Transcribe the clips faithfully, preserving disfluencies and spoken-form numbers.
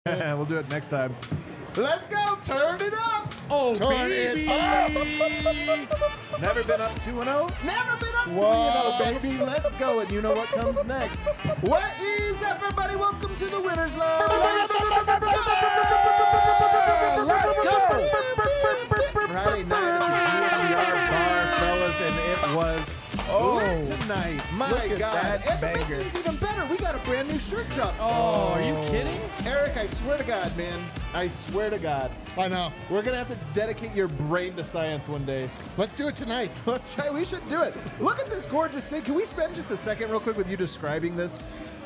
We'll do it next time. Let's go. Turn it up. Oh, Turn baby. it up. Never been up two and oh. Never been up three Whoa. and oh, baby. Let's go. And you know what comes next. What is up, everybody? Welcome to the Winners Lounge. Let's go. Friday night at the D N V R bar, fellas, and it was Oh, lit tonight. My look at God. that And the banger. thing's even better. We got a brand new shirt drop. Oh, are you kidding? Eric, I swear to God, man. I swear to God. I know. We're going to have to dedicate your brain to science one day. Let's do it tonight. Let's try. We should do it. Look at this gorgeous thing. Can we spend just a second real quick with you describing this?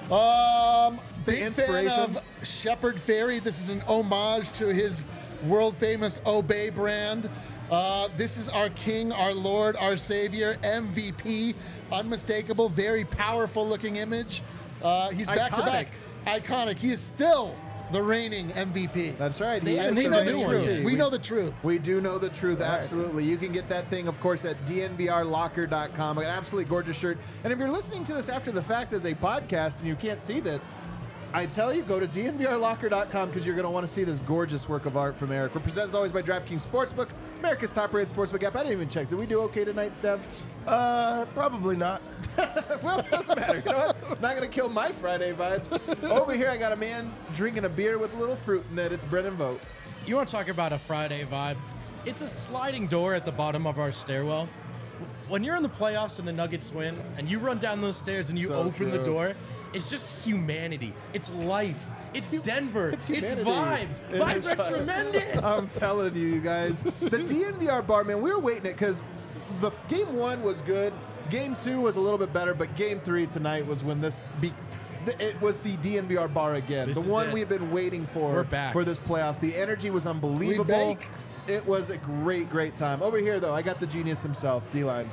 Um, big fan inspiration? of Shepard Fairey. This is an homage to his world famous Obey brand. Uh, this is our king, our lord, our savior, M V P. Unmistakable, very powerful looking image. Uh, he's back to back. Iconic. He is still the reigning M V P. That's right. He And is we the know the reigning truth. M V P. We know the truth. We do know the truth, right. absolutely. You can get that thing, of course, at D N V R locker dot com. An absolutely gorgeous shirt. And if you're listening to this after the fact as a podcast and you can't see that, I tell you, go to D N V R locker dot com because you're going to want to see this gorgeous work of art from Eric. We're presented as always by DraftKings Sportsbook, America's top-rated sportsbook app. I didn't even check. Did we do okay tonight, Dev? Uh, probably not. Well, it doesn't matter. You know what? Not going to kill my Friday vibes. Over here, I got a man drinking a beer with a little fruit in it. It's Brennan Vogt. You want to talk about a Friday vibe? It's a sliding door at the bottom of our stairwell. When you're in the playoffs and the Nuggets win, and you run down those stairs and you So open the true. door, it's just humanity. It's life. It's Denver. It's It's, humanity. vibes. It Vibes is are vibes. tremendous. I'm telling you, you guys. The D N V R bar, man, we were waiting it because the f- game one was good. Game two was a little bit better, but game three tonight was when this be. th- It was the D N V R bar again. This the is one it. we've been waiting for We're back. for this playoffs. The energy was unbelievable. bake. It was a great, great time. Over here, though, I got the genius himself, D-Line.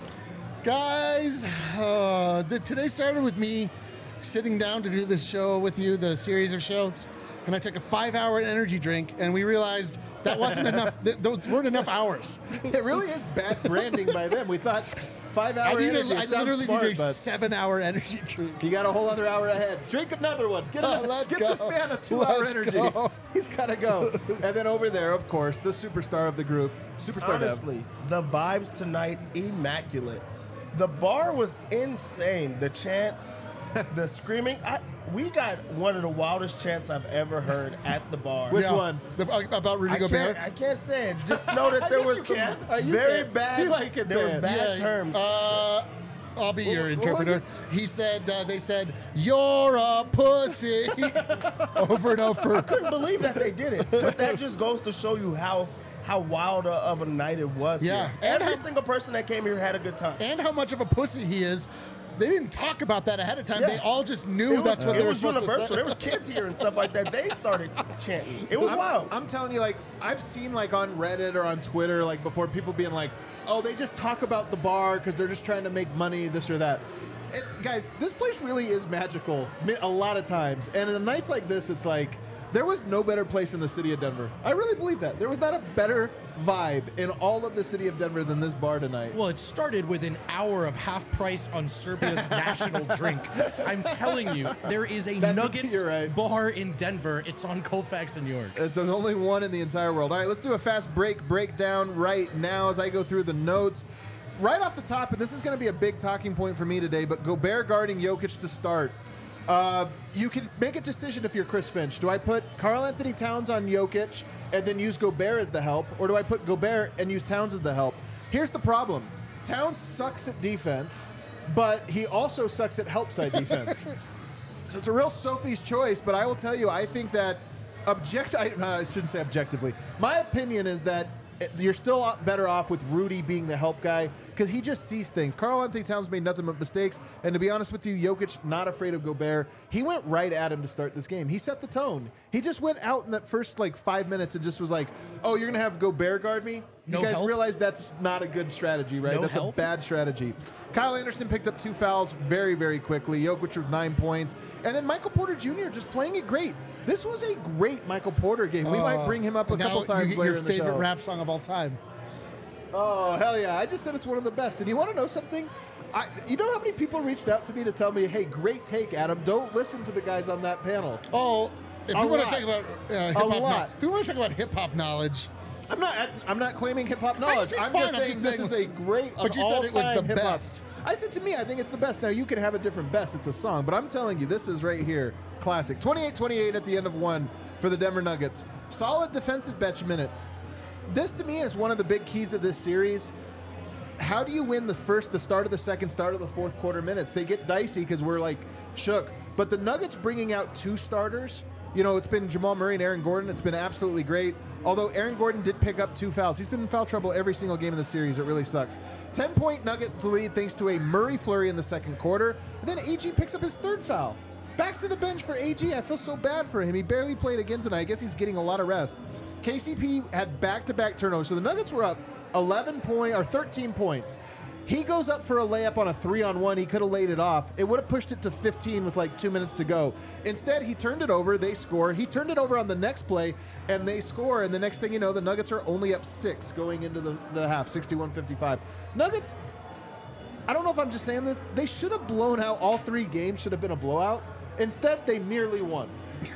Guys, uh, the, today started with me sitting down to do this show with you, the series of shows, and I took a five-hour energy drink, and we realized that wasn't enough. Th- those weren't enough hours. It really is bad branding by them. We thought five I, hour need energy. a, it I sounds literally smart, need a but seven-hour energy drink. you got a whole other hour ahead. Drink another one. Get, Oh, another, let's get go. this man a two-hour Let's energy. go. He's got to go. And then over there, of course, the superstar of the group, Superstar Dev. Honestly, the vibes tonight, immaculate. The bar was insane. The chants, the screaming. I, we got one of the wildest chants I've ever heard at the bar. Which one? The, about Rudy I Gobert? can't, I can't say it. Just know that there Yes, was you some can. Uh, you very can. bad. Do you like it, there Sam? was bad Yeah, terms. Uh, I'll be your What- what was interpreter. He said, uh, they said, "You're a pussy," over and over. Couldn't believe that they did it. But that just goes to show you how how wild of a night it was. Yeah. here. And Every how- single person that came here had a good time. And how much of a pussy he is. They didn't talk about that ahead of time. Yeah. They all just knew It was, that's what it they were was supposed universal. to say. There was kids here and stuff like that. They started chanting. It was I'm, wild. I'm telling you, like, I've seen, like, on Reddit or on Twitter, like, before people being like, oh, they just talk about the bar because they're just trying to make money, this or that. It, guys, this place really is magical mi- a lot of times. And in nights like this, it's like, there was no better place in the city of Denver. I really believe that. There was not a better vibe in all of the city of Denver than this bar tonight. Well, it started with an hour of half price on Serbia's national drink. I'm telling you, there is a That's- Nuggets you're right. bar in Denver. It's on Colfax in New York. It's, there's only one in the entire world. All right, let's do a fast break breakdown right now as I go through the notes. Right off the top, and this is going to be a big talking point for me today, but Gobert guarding Jokic to start. Uh, you can make a decision if you're Chris Finch. Do I put Karl Anthony Towns on Jokic and then use Gobert as the help, or do I put Gobert and use Towns as the help? Here's the problem. Towns sucks at defense, but he also sucks at help side defense. So it's a real Sophie's choice, but I will tell you, I think that object. I, uh, I shouldn't say objectively. My opinion is that it- you're still better off with Rudy being the help guy because he just sees things. Karl Anthony Towns made nothing but mistakes, and to be honest with you, Jokic not afraid of Gobert. He went right at him to start this game. He set the tone. He just went out in that first like five minutes and just was like, "Oh, you're gonna have Gobert guard me." You No guys help? realize that's not a good strategy, right? No that's help? a bad strategy. Kyle Anderson picked up two fouls very, very quickly. Jokic with nine points. And then Michael Porter Junior just playing it great. This was a great Michael Porter game. We might bring him up a Uh, Now couple times you get later your in the favorite show. rap song of all time. Oh, hell yeah. I just said it's one of the best. And you want to know something? I, you know how many people reached out to me to tell me, hey, great take, Adam. Don't listen to the guys on that panel. Oh, if A we want lot. to talk about uh, hip hop, lot. if we want to talk about hip hop knowledge, I'm not. I'm not claiming hip hop knowledge. saying I'm fine, just I'm saying just this saying- is a great. But an you said it was the all-time hip-hop. best. I said to me, I think it's the best. Now you can have a different best. It's a song, but I'm telling you, this is right here, classic. twenty-eight twenty-eight at the end of one for the Denver Nuggets. Solid defensive bench minutes. This to me is one of the big keys of this series. How do you win the first, the start of the second, start of the fourth quarter minutes? They get dicey because we're like shook. But the Nuggets bringing out two starters, you know, it's been Jamal Murray and Aaron Gordon. It's been absolutely great. Although Aaron Gordon did pick up two fouls. He's been in foul trouble every single game in the series. It really sucks. ten-point Nuggets lead thanks to a Murray flurry in the second quarter. And then A G picks up his third foul. Back to the bench for A G. I feel so bad for him. He barely played again tonight. I guess he's getting a lot of rest. K C P had back-to-back turnovers. So the Nuggets were up eleven point or thirteen points. He goes up for a layup on a three-on-one. He could have laid it off. It would have pushed it to fifteen with like two minutes to go. Instead, he turned it over. They score. He turned it over on the next play, and they score. And the next thing you know, the Nuggets are only up six going into the, the half, sixty-one fifty-five. Nuggets, I don't know if I'm just saying this. They should have blown out all three games. Should have been a blowout. Instead, they merely won.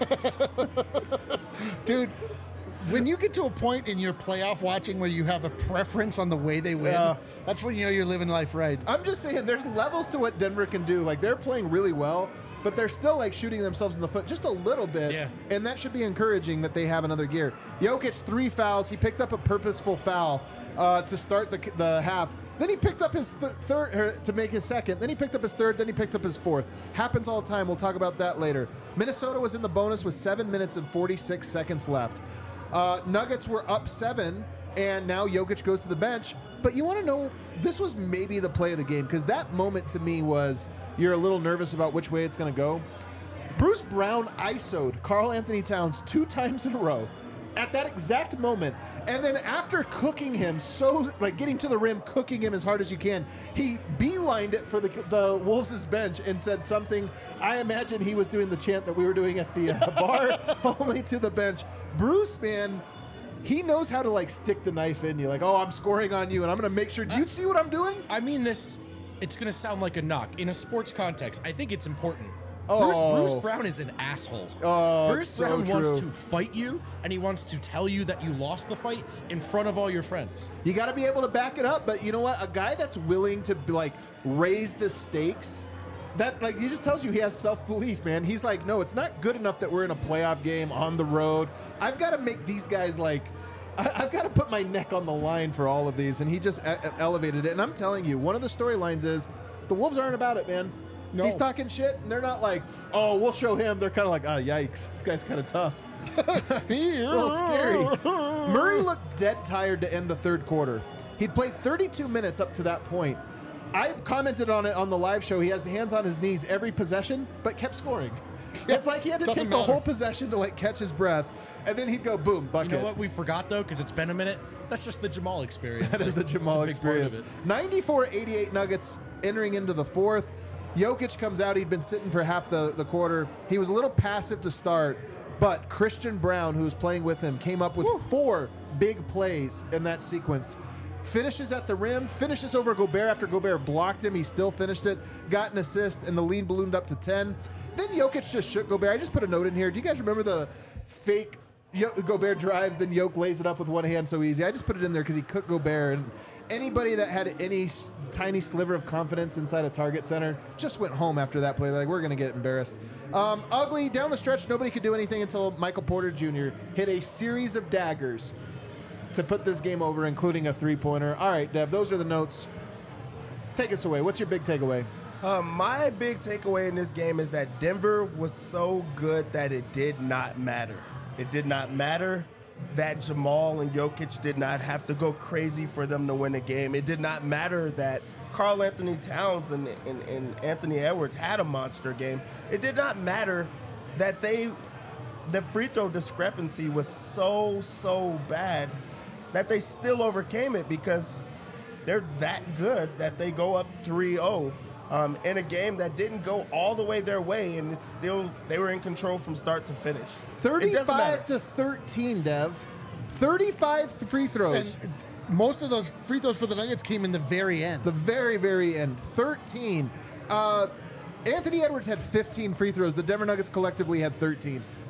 dude. When you get to a point in your playoff watching where you have a preference on the way they win, Yeah. that's when you know you're living life right. I'm just saying there's levels to what Denver can do. Like, they're playing really well, but they're still like shooting themselves in the foot just a little bit. Yeah. And that should be encouraging that they have another gear. Jokic, three fouls. He picked up a purposeful foul uh, to start the, the half. Then he picked up his th- third er, to make his second. Then he picked up his third. Then he picked up his fourth. Happens all the time. We'll talk about that later. Minnesota was in the bonus with seven minutes and forty-six seconds left. Uh, Nuggets were up seven, and now Jokic goes to the bench. But you want to know, this was maybe the play of the game, because that moment to me was you're a little nervous about which way it's going to go. Bruce Brown I S O'd Karl Anthony Towns two times in a row at that exact moment. And then after cooking him, so like getting to the rim, cooking him as hard as you can, he beelined it for the, the Wolves' bench and said something. I imagine he was doing the chant that we were doing at the uh, bar, only to the bench. Bruce, man, he knows how to like stick the knife in you. Like, oh, I'm scoring on you, and I'm going to make sure. Do you see what I'm doing? I mean this, it's going to sound like a knock. In a sports context, I think it's important. Oh. Bruce, Bruce Brown is an asshole. Oh, Bruce it's so Brown wants true. to fight you, and he wants to tell you that you lost the fight in front of all your friends. You got to be able to back it up. But you know what? A guy that's willing to like raise the stakes, that like he just tells you he has self-belief, man. He's like, no, it's not good enough that we're in a playoff game on the road. I've got to make these guys like, I, I've got to put my neck on the line for all of these. And he just e- elevated it. And I'm telling you, one of the storylines is the Wolves aren't about it, man. No. He's talking shit, and they're not like, oh, we'll show him. They're kind of like, ah, yikes, this guy's kind of tough. A little scary. Murray looked dead tired to end the third quarter. He'd played thirty-two minutes up to that point. I commented on it on the live show. He has hands on his knees every possession, but kept scoring. It's like he had to Doesn't take the matter. whole possession to like catch his breath, and then he'd go boom, bucket. You know what we forgot though, because it's been a minute. That's just the Jamal experience. That is the It's a Jamal big part of experience. it. ninety-four eighty-eight Nuggets entering into the fourth. Jokic comes out. He'd been sitting for half the, the quarter. He was a little passive to start, but Christian Brown, who was playing with him, came up with four big plays in that sequence. Finishes at the rim, finishes over Gobert after Gobert blocked him. He still finished it, got an assist, and the lead ballooned up to ten. Then Jokic just shook Gobert. I just put a note in here. Do you guys remember the fake Yo- Gobert drives, then Jokic lays it up with one hand so easy? I just put it in there because he cooked Gobert, and anybody that had any s- tiny sliver of confidence inside a Target Center just went home after that play. Like, we're going to get embarrassed. Um, ugly, down the stretch, nobody could do anything until Michael Porter Junior hit a series of daggers to put this game over, including a three-pointer. All right, Dev, those are the notes. Take us away. What's your big takeaway? Um, my big takeaway in this game is that Denver was so good that it did not matter. It did not matter that Jamal and Jokic did not have to go crazy for them to win the game. It did not matter that Karl Anthony Towns and, and, and Anthony Edwards had a monster game. It did not matter that they, the free throw discrepancy was so, so bad that they still overcame it because they're that good that they go up three oh um, in a game that didn't go all the way their way, and it's still, they were in control from start to finish. It doesn't matter. thirty-five to thirteen, Dev. thirty-five free throws. And most of those free throws for the Nuggets came in the very end. The very, very end. thirteen. Uh, Anthony Edwards had fifteen free throws. The Denver Nuggets collectively had thirteen.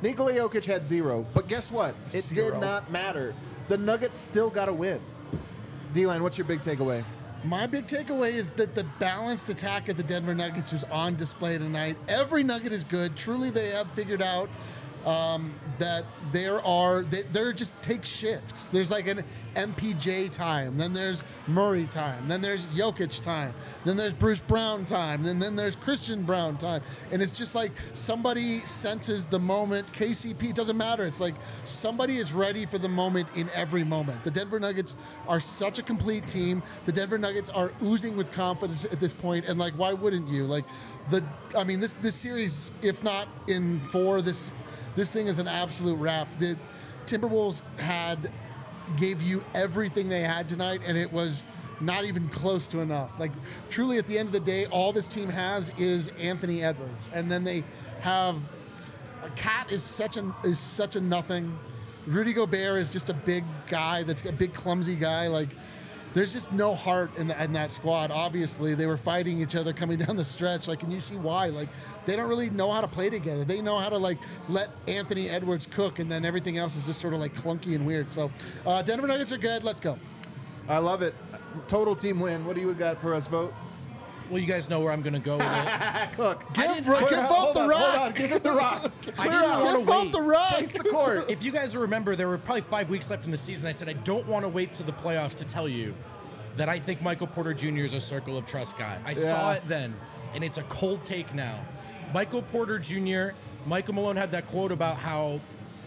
Nikola Jokic had zero. But guess what? It Zero. did not matter. The Nuggets still got to win. D-Line, what's your big takeaway? My big takeaway is that the balanced attack of the Denver Nuggets was on display tonight. Every Nugget is good. Truly, they have figured out um, that there are, they, they're just take shifts. There's like an M P J time, then there's Murray time, then there's Jokic time, then there's Bruce Brown time, and then there's Christian Brown time. And it's just like somebody senses the moment. K C P, it doesn't matter. It's like somebody is ready for the moment in every moment. The Denver Nuggets are such a complete team. The Denver Nuggets are oozing with confidence at this point, and like, why wouldn't you? Like, the, I mean, this this series, if not in four, this this thing is an absolute wrap. The Timberwolves had gave you everything they had tonight, and it was not even close to enough. Like, truly, at the end of the day, all this team has is Anthony Edwards, and then they have a Cat is such a is such a nothing. Rudy Gobert is just a big guy that's a big clumsy guy. Like, there's just no heart in, the, in that squad. Obviously, they were fighting each other coming down the stretch. Like, and you see why. Like, they don't really know how to play together. They know how to, like, let Anthony Edwards cook, and then everything else is just sort of, like, clunky and weird. So, uh, Denver Nuggets are good. Let's go. I love it. Total team win. What do you got for us, Vote? Well, you guys know where I'm going to go with it. Cook. Give, Clear give out- off hold the on, rock. Hold on. Give it the rock. I Clear didn't out. wanna Give off wait. the rock. Space the court. If you guys remember, there were probably five weeks left in the season. I said I don't want to wait to the playoffs to tell you that I think Michael Porter Junior is a circle of trust guy. I saw Yeah. it then, and it's a cold take now. Michael Porter Junior, Michael Malone had that quote about how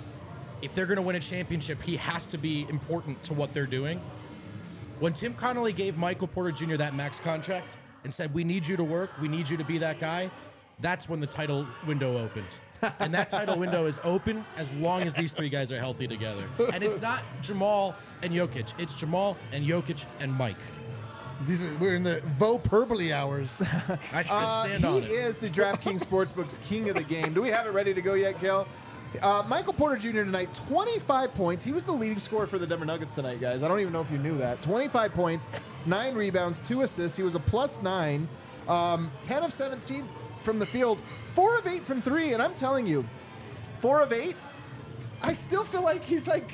if they're going to win a championship, he has to be important to what they're doing. When Tim Connolly gave Michael Porter Junior that max contract and said, we need you to work, we need you to be that guy, that's when the title window opened. And that title window is open as long as these three guys are healthy together. And it's not Jamal and Jokic. It's Jamal and Jokic and Mike. These are, we're in the Voperbole hours. I should Uh, stand he on it. is the DraftKings Sportsbook's king of the game. Do we have it ready to go yet, Kel? Uh, Michael Porter Junior tonight, twenty-five points. He was the leading scorer for the Denver Nuggets tonight, guys. I don't even know if you knew that. twenty-five points, nine rebounds, two assists. He was a plus nine, um, ten of seventeen from the field, four of eight from three. And I'm telling you, four of eight, I still feel like he's like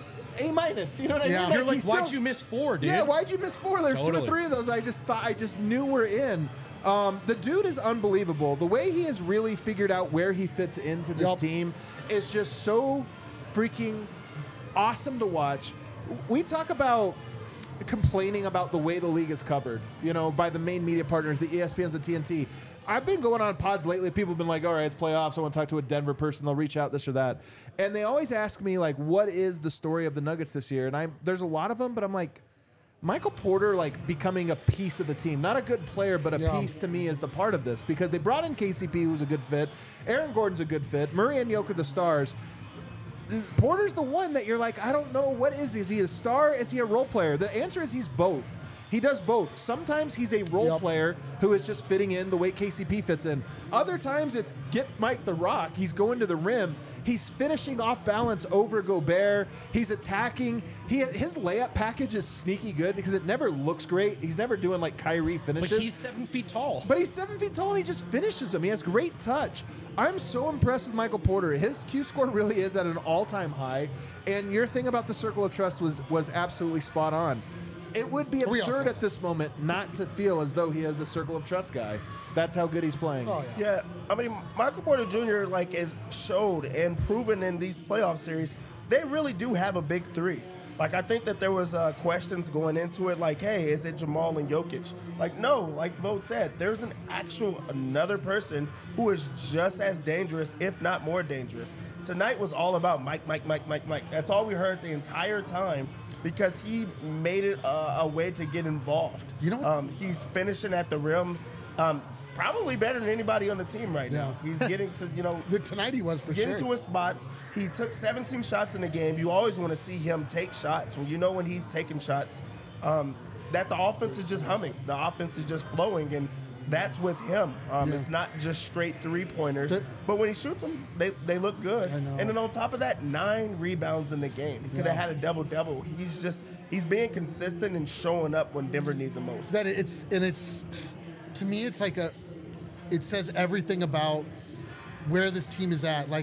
A minus. You know what I Yeah. mean? You're like, he's why'd still- you miss four, dude? Yeah, why'd you miss four? There's two or Totally. three of those I just thought I just knew were in. Um, the dude is unbelievable. The way he has really figured out where he fits into this Yup. team is just so freaking awesome to watch. We talk about complaining about the way the league is covered, you know, by the main media partners, the E S P Ns, the T N T. I've been going on pods lately. People have been like, all right, it's playoffs. I want to talk to a Denver person. They'll reach out, this or that. And they always ask me, like, what is the story of the Nuggets this year? And I there's a lot of them, but I'm like, Michael Porter, like, becoming a piece of the team. Not a good player, but a Yeah. piece to me is the part of this. Because they brought in K C P, who's a good fit. Aaron Gordon's a good fit. Murray and Jokic are the stars. Porter's the one that you're like, I don't know, what is he? Is he a star? Is he a role player? The answer is he's both. He does both. Sometimes he's a role Yep. player who is just fitting in the way K C P fits in. Other times it's get Mike the Rock. He's going to the rim. He's finishing off balance over Gobert. He's attacking. He his layup package is sneaky good because it never looks great. He's never doing like Kyrie finishes. But he's seven feet tall. But he's seven feet tall and he just finishes them. He has great touch. I'm so impressed with Michael Porter. His Q score really is at an all-time high. And your thing about the circle of trust was was absolutely spot on. It would be We absurd also- at this moment not to feel as though he is a circle of trust guy. That's how good he's playing. Oh, yeah. Yeah, I mean, Michael Porter Junior like is showed and proven in these playoff series, they really do have a big three. Like, I think that there was uh, questions going into it, like, hey, is it Jamal and Jokic? Like, no, like Vogt said, there's an actual another person who is just as dangerous, if not more dangerous. Tonight was all about Mike, Mike, Mike, Mike, Mike. That's all we heard the entire time because he made it a, a way to get involved. You know- um, he's finishing at the rim. Um, Probably better than anybody on the team right now. Yeah. He's getting to, you know, The- Tonight he was for getting sure. to his spots. He took seventeen shots in the game. You always want to see him take shots. When you know when he's taking shots, um, that the offense is just humming. The offense is just flowing, and that's with him. Um, Yeah. It's not just straight three-pointers. The- but when he shoots them, they, they look good. I know. And then on top of that, nine rebounds in the game. He could have Yeah. had a double-double. He's just he's being consistent and showing up when Denver needs him most. that it's and it's to me it's like a it says everything about where this team is at. Like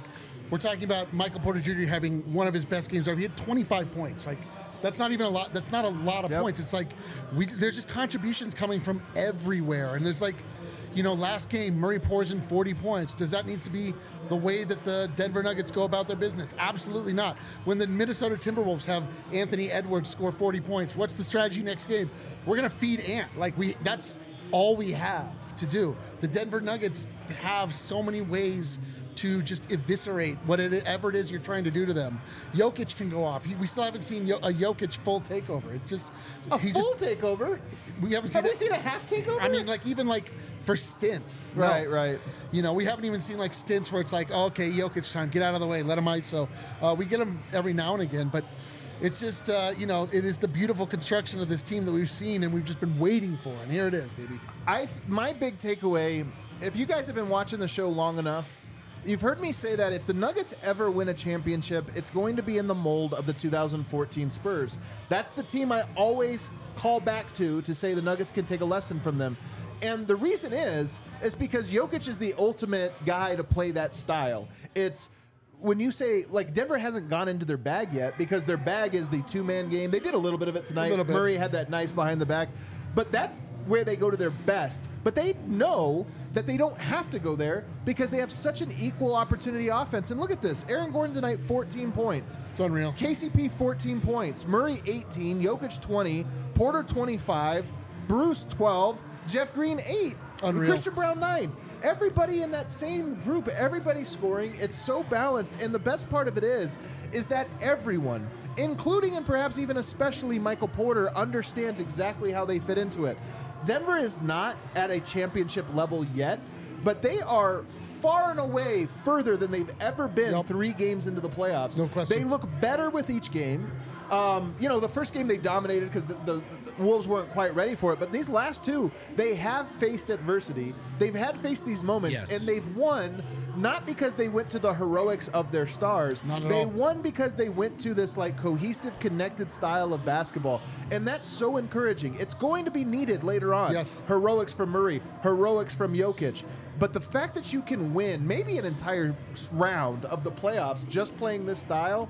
We're talking about Michael Porter Junior having one of his best games ever. He had twenty-five points. Like, that's not even a lot. That's not a lot of Yep. points. It's like we there's just contributions coming from everywhere, and there's like, you know, last game Murray pours in forty points. Does that need to be the way that the Denver Nuggets go about their business? Absolutely not. When the Minnesota Timberwolves have Anthony Edwards score forty points, what's the strategy next game? We're gonna feed Ant. Like we, that's all we have to do. The Denver Nuggets have so many ways to just eviscerate whatever it is you're trying to do to them. Jokic can go off. He, we still haven't seen Yo- a Jokic full takeover. It's just A he full just takeover? we haven't seen Have we it. seen a half takeover? I mean, like even like for stints. No. Right, right. You know, we haven't even seen like stints where it's like, oh, okay, Jokic time, get out of the way, let him I S O. Uh, we get him every now and again, but it's just, uh, you know, it is the beautiful construction of this team that we've seen and we've just been waiting for, and here it is, baby. I my big takeaway, if you guys have been watching the show long enough, you've heard me say that if the Nuggets ever win a championship, it's going to be in the mold of the two thousand fourteen Spurs. That's the team I always call back to to say the Nuggets can take a lesson from them. And the reason is, is because Jokic is the ultimate guy to play that style. It's when you say, like, Denver hasn't gone into their bag yet because their bag is the two-man game. They did a little bit of it tonight. little bit. Murray had that nice behind the back. But that's where they go to their best. But they know that they don't have to go there because they have such an equal opportunity offense. And look at this. Aaron Gordon tonight, fourteen points. It's unreal. K C P, fourteen points. Murray, eighteen. Jokic, twenty. Porter, twenty-five. Bruce, twelve. Jeff Green, eight. Unreal. Christian Brown, nine. Everybody in that same group, everybody scoring. It's so balanced. And the best part of it is, is that everyone, including and perhaps even especially Michael Porter, understands exactly how they fit into it. Denver is not at a championship level yet, but they are far and away further than they've ever been Yep. three games into the playoffs. No question. They look better with each game. Um, you know, the first game they dominated because the, the, the Wolves weren't quite ready for it. But these last two, they have faced adversity. They've had faced these moments, Yes. and they've won not because they went to the heroics of their stars. Not at they all. won because they went to this like cohesive, connected style of basketball, and that's so encouraging. It's going to be needed later on. Yes. Heroics from Murray, heroics from Jokic. But the fact that you can win maybe an entire round of the playoffs just playing this style,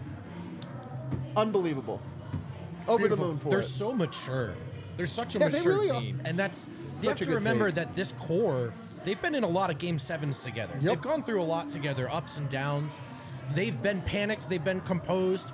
unbelievable. Over the beautiful. moon for They're it. so mature. They're such a Yeah, they mature really are. team, and that's you Such have a to good remember take. that this core. They've been in a lot of game sevens together. They've gone through a lot together, ups and downs. They've been panicked. They've been composed.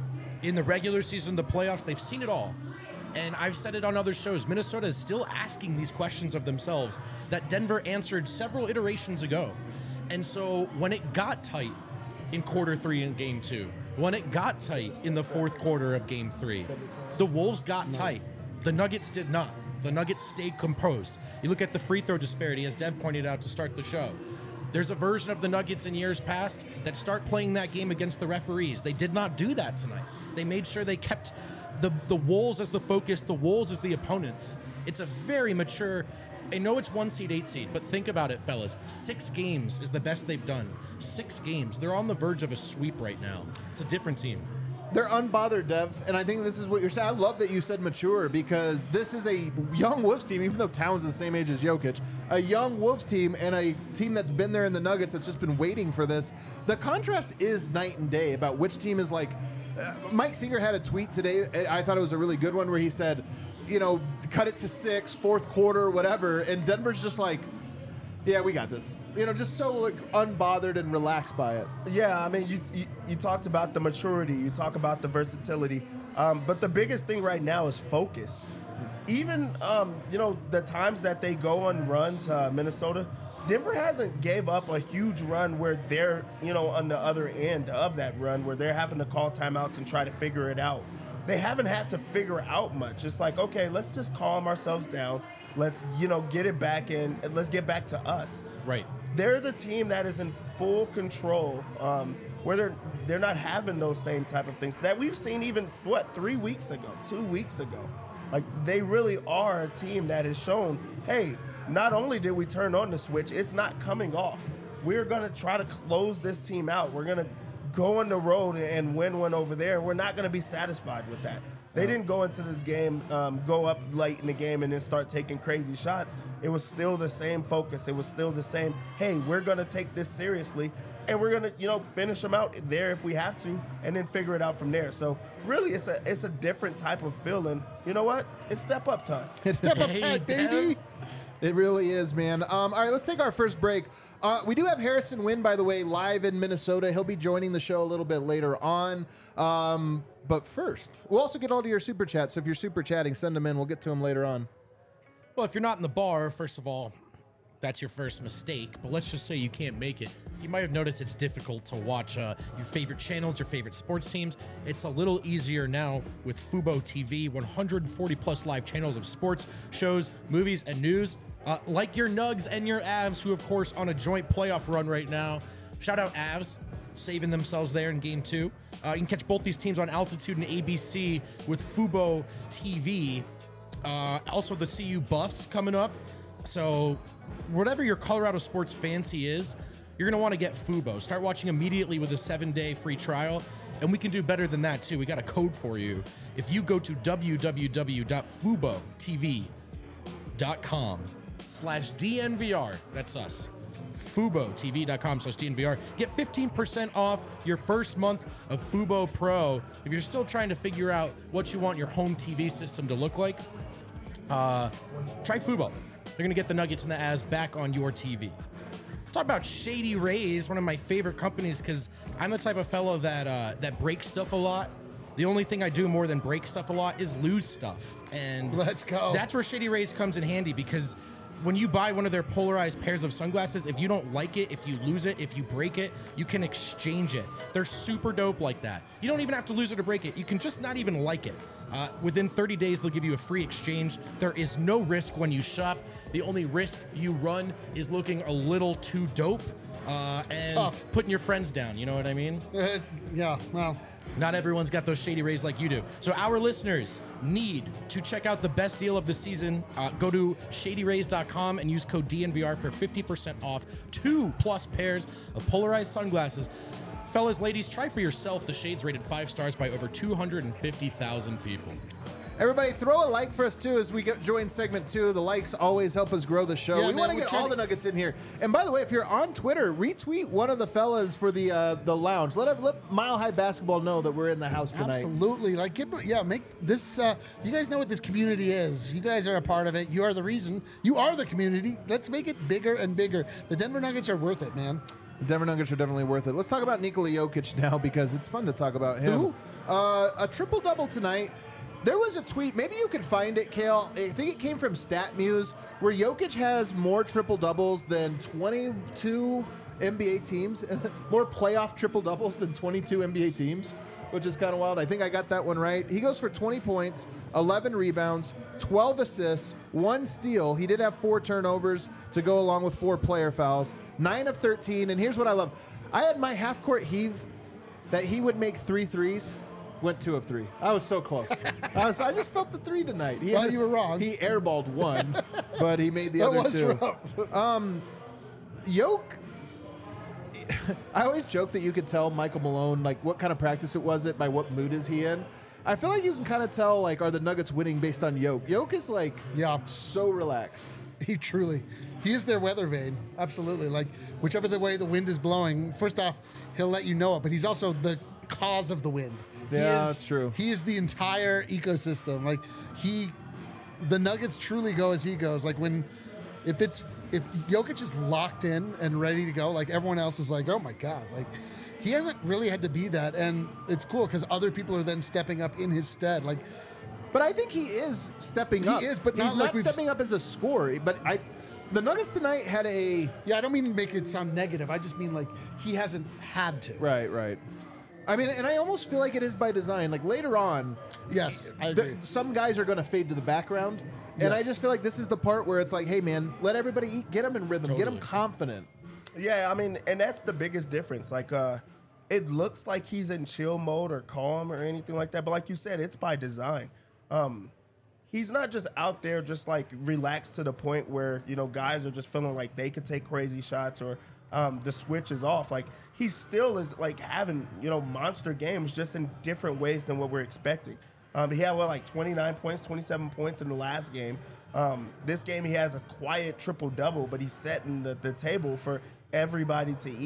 In the regular season, the playoffs, they've seen it all. And I've said it on other shows. Minnesota is still asking these questions of themselves that Denver answered several iterations ago. And so when it got tight in quarter three in game two, when it got tight in the fourth quarter of game three, the Wolves got tight. The Nuggets did not. The Nuggets stayed composed. You look at the free throw disparity, as Dev pointed out to start the show. There's a version of the Nuggets in years past that start playing that game against the referees. They did not do that tonight. They made sure they kept the, the Wolves as the focus, the Wolves as the opponents. It's a very mature, I know it's one seed, eight seed, but think about it, fellas. Six games is the best they've done. Six games. They're on the verge of a sweep right now. It's a different team. They're unbothered, Dev, and I think this is what you're saying. I love that you said mature because this is a young Wolves team, even though Towns is the same age as Jokic, a young Wolves team and a team that's been there in the Nuggets that's just been waiting for this. The contrast is night and day about which team is like. Uh, Mike Seeger had a tweet today. I thought it was a really good one where he said, you know, cut it to six, fourth quarter, whatever, and Denver's just like, yeah, we got this. You know, just so like unbothered and relaxed by it. Yeah, I mean, you, you you talked about the maturity, you talk about the versatility, um, but the biggest thing right now is focus. Even um, you know the times that they go on runs, uh, Minnesota, Denver hasn't gave up a huge run where they're you know on the other end of that run where they're having to call timeouts and try to figure it out. They haven't had to figure out much. It's like, okay, let's just calm ourselves down. Let's you know get it back in, and let's get back to us. Right. They're the team that is in full control, um, where they're they're not having those same type of things that we've seen even what three weeks ago, two weeks ago. Like they really are a team that has shown, hey, not only did we turn on the switch, it's not coming off. We're gonna try to close this team out. We're gonna go on the road and win one over there. We're not gonna be satisfied with that. They didn't go into this game, um, go up late in the game and then start taking crazy shots. It was still the same focus. It was still the same, hey, we're going to take this seriously. and we're gonna, you know, finish them out there if we have to, and then figure it out from there. So really, it's a it's a different type of feeling. You know what? It's step up time. It's Step up Hey, time, Dev. baby. It really is, man. Um, all right, let's take our first break. Uh, we do have Harrison Wynn, by the way, live in Minnesota. He'll be joining the show a little bit later on. Um, but first, we'll also get all to your super chats. So if you're super chatting, send them in. We'll get to them later on. Well, if you're not in the bar, first of all, that's your first mistake. But let's just say you can't make it. You might have noticed it's difficult to watch uh, your favorite channels, your favorite sports teams. It's a little easier now with Fubo T V, one hundred forty plus live channels of sports, shows, movies, and news. Uh, like your Nugs and your Avs, who, of course, on a joint playoff run right now. Shout out Avs, saving themselves there in game two. Uh, you can catch both these teams on Altitude and A B C with Fubo T V. Uh, also, the C U Buffs coming up. So, whatever your Colorado sports fancy is, you're going to want to get Fubo. Start watching immediately with a seven-day free trial. And we can do better than that, too. We got a code for you. If you go to www.fubotv.com slash DNVR, that's us, FuboTV.com slash DNVR, get fifteen percent off your first month of Fubo Pro. If you're still trying to figure out what you want your home T V system to look like, uh, try Fubo. They're going to get the Nuggets and the Avs back on your T V. Talk about Shady Rays, one of my favorite companies, because I'm the type of fellow that uh, that breaks stuff a lot. The only thing I do more than break stuff a lot is lose stuff. And Let's go. That's where Shady Rays comes in handy, because when you buy one of their polarized pairs of sunglasses, if you don't like it, if you lose it, if you break it, you can exchange it. They're super dope like that. You don't even have to lose it or break it. You can just not even like it. Uh, within thirty days, they'll give you a free exchange. There is no risk when you shop. The only risk you run is looking a little too dope uh, and tough. putting your friends down. You know what I mean? Uh, yeah, well, Not everyone's got those Shady Rays like you do. So our listeners need to check out the best deal of the season. Uh, go to shady rays dot com and use code D N V R for fifty percent off two plus pairs of polarized sunglasses. Fellas, ladies, try for yourself the shades rated five stars by over two hundred fifty thousand people. Everybody, throw a like for us, too, as we get, join segment two. The likes always help us grow the show. Yeah, we man, want to we're get trying all to- the Nuggets in here. And by the way, if you're on Twitter, retweet one of the fellas for the uh, the lounge. Let, let Mile High Basketball know that we're in the house tonight. absolutely. Like, get, yeah, make this. Uh, you guys know what this community is. You guys are a part of it. You are the reason. You are the community. Let's make it bigger and bigger. The Denver Nuggets are worth it, man. The Denver Nuggets are definitely worth it. Let's talk about Nikola Jokic now, because it's fun to talk about him. Who? Uh, a triple-double tonight. There was a tweet, maybe you could find it, Kale. I think it came from StatMuse, where Jokic has more triple-doubles than twenty-two N B A teams, more playoff triple-doubles than twenty-two N B A teams, which is kind of wild. I think I got that one right. He goes for twenty points, eleven rebounds, twelve assists, one steal. He did have four turnovers to go along with four player fouls, nine of thirteen. And here's what I love. I had my half-court heave that he would make three threes. Went two of three. I was so close. I, was, I just felt the three tonight. He Well, had- you were wrong. He airballed one, but he made the That other was two. rough. Yoke, I always joke that you could tell Michael Malone like what kind of practice it was it by what mood is he in. I feel like you can kind of tell like are the Nuggets winning based on Yoke. Yoke is like Yeah. so relaxed. He truly, he is their weather vane. Absolutely. Like, whichever the way the wind is blowing, first off, he'll let you know it, but he's also the cause of the wind. He Yeah, is- that's true. He is the entire ecosystem. Like, he, the Nuggets truly go as he goes. Like, when, if it's, if Jokic is locked in and ready to go, like, everyone else is like, oh my God. Like, he hasn't really had to be that. And it's cool because other people are then stepping up in his stead. Like, But I think he is stepping He up. is, but he's not not like we've- stepping up as a scorer. But I, the Nuggets tonight had a yeah, I don't mean to make it sound negative. I just mean, like, he hasn't had to. right, right. I mean, and I almost feel like it is by design. Like later on, Yes, I the- agree. some guys are going to fade to the background, and I Yes. just feel like this is the part where it's like, hey man, let everybody eat, get them in rhythm, get them Totally. confident. Yeah, I mean, and that's the biggest difference. Like, uh, it looks like he's in chill mode or calm or anything like that, but like you said, it's by design. Um, he's not just out there just like relaxed to the point where, you know, guys are just feeling like they could take crazy shots or um, the switch is off. Like, he still is like having, you know, monster games just in different ways than what we're expecting. Um, he had, what, like twenty-nine points, twenty-seven points in the last game. Um, this game, he has a quiet triple-double, but he's setting the, the table for everybody to eat.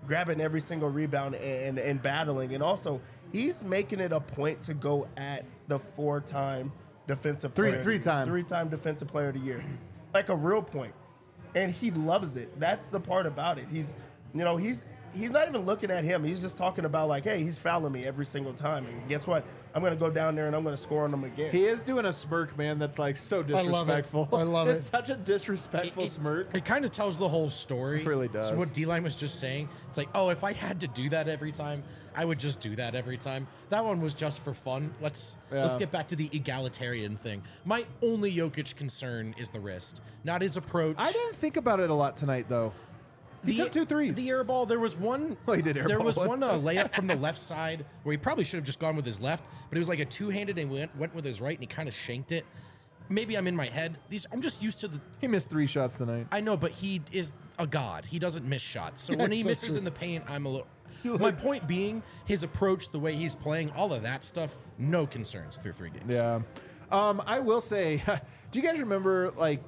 grabbing every single rebound and, and, and battling. And also, he's making it a point to go at the four-time defensive Three- player. three-time. Three-time defensive player of the year. Like a real point. And he loves it. That's the part about it. He's, you know, he's he's not even looking at him. He's just talking about like, hey, he's fouling me every single time. And guess what? I'm going to go down there and I'm going to score on him again. He is doing a smirk, man, that's like so disrespectful. I love it. I love it's it. such a disrespectful It- it- smirk. It kind of tells the whole story. It really does. So what D-Line was just saying, it's like, oh, if I had to do that every time, I would just do that every time. That one was just for fun. Let's Yeah. let's get back to the egalitarian thing. My only Jokic concern is the wrist, not his approach. I didn't think about it a lot tonight, though. He the, took two threes. The air ball. There was one. Well, he did air There ball was one. one uh, layup from the left side where he probably should have just gone with his left, but it was like a two-handed and went went with his right, and he kind of shanked it. Maybe I'm in my head. These I'm just used to the. He missed three shots tonight. I know, but he is a god. He doesn't miss shots. So when he so misses true. in the paint, I'm a little. My point being, his approach, the way he's playing, all of that stuff, no concerns through three games. Yeah. Um, I will say, do you guys remember, like,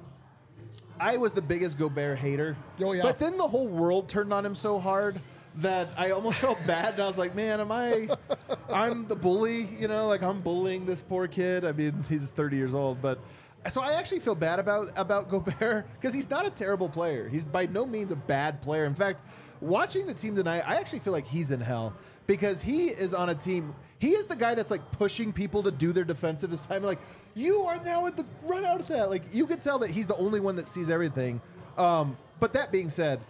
I was the biggest Gobert hater. Oh, yeah. But then the whole world turned on him so hard that I almost felt bad. And I was like, man, am I, I'm the bully, you know, like I'm bullying this poor kid. I mean, he's thirty years old, but so I actually feel bad about, about Gobert because he's not a terrible player. He's by no means a bad player. In fact, watching the team tonight, I actually feel like he's in hell because he is on a team. He is the guy that's like pushing people to do their defensive assignment. Like, you are now at the run out of that. Like, you can tell that he's the only one that sees everything. Um, but that being said,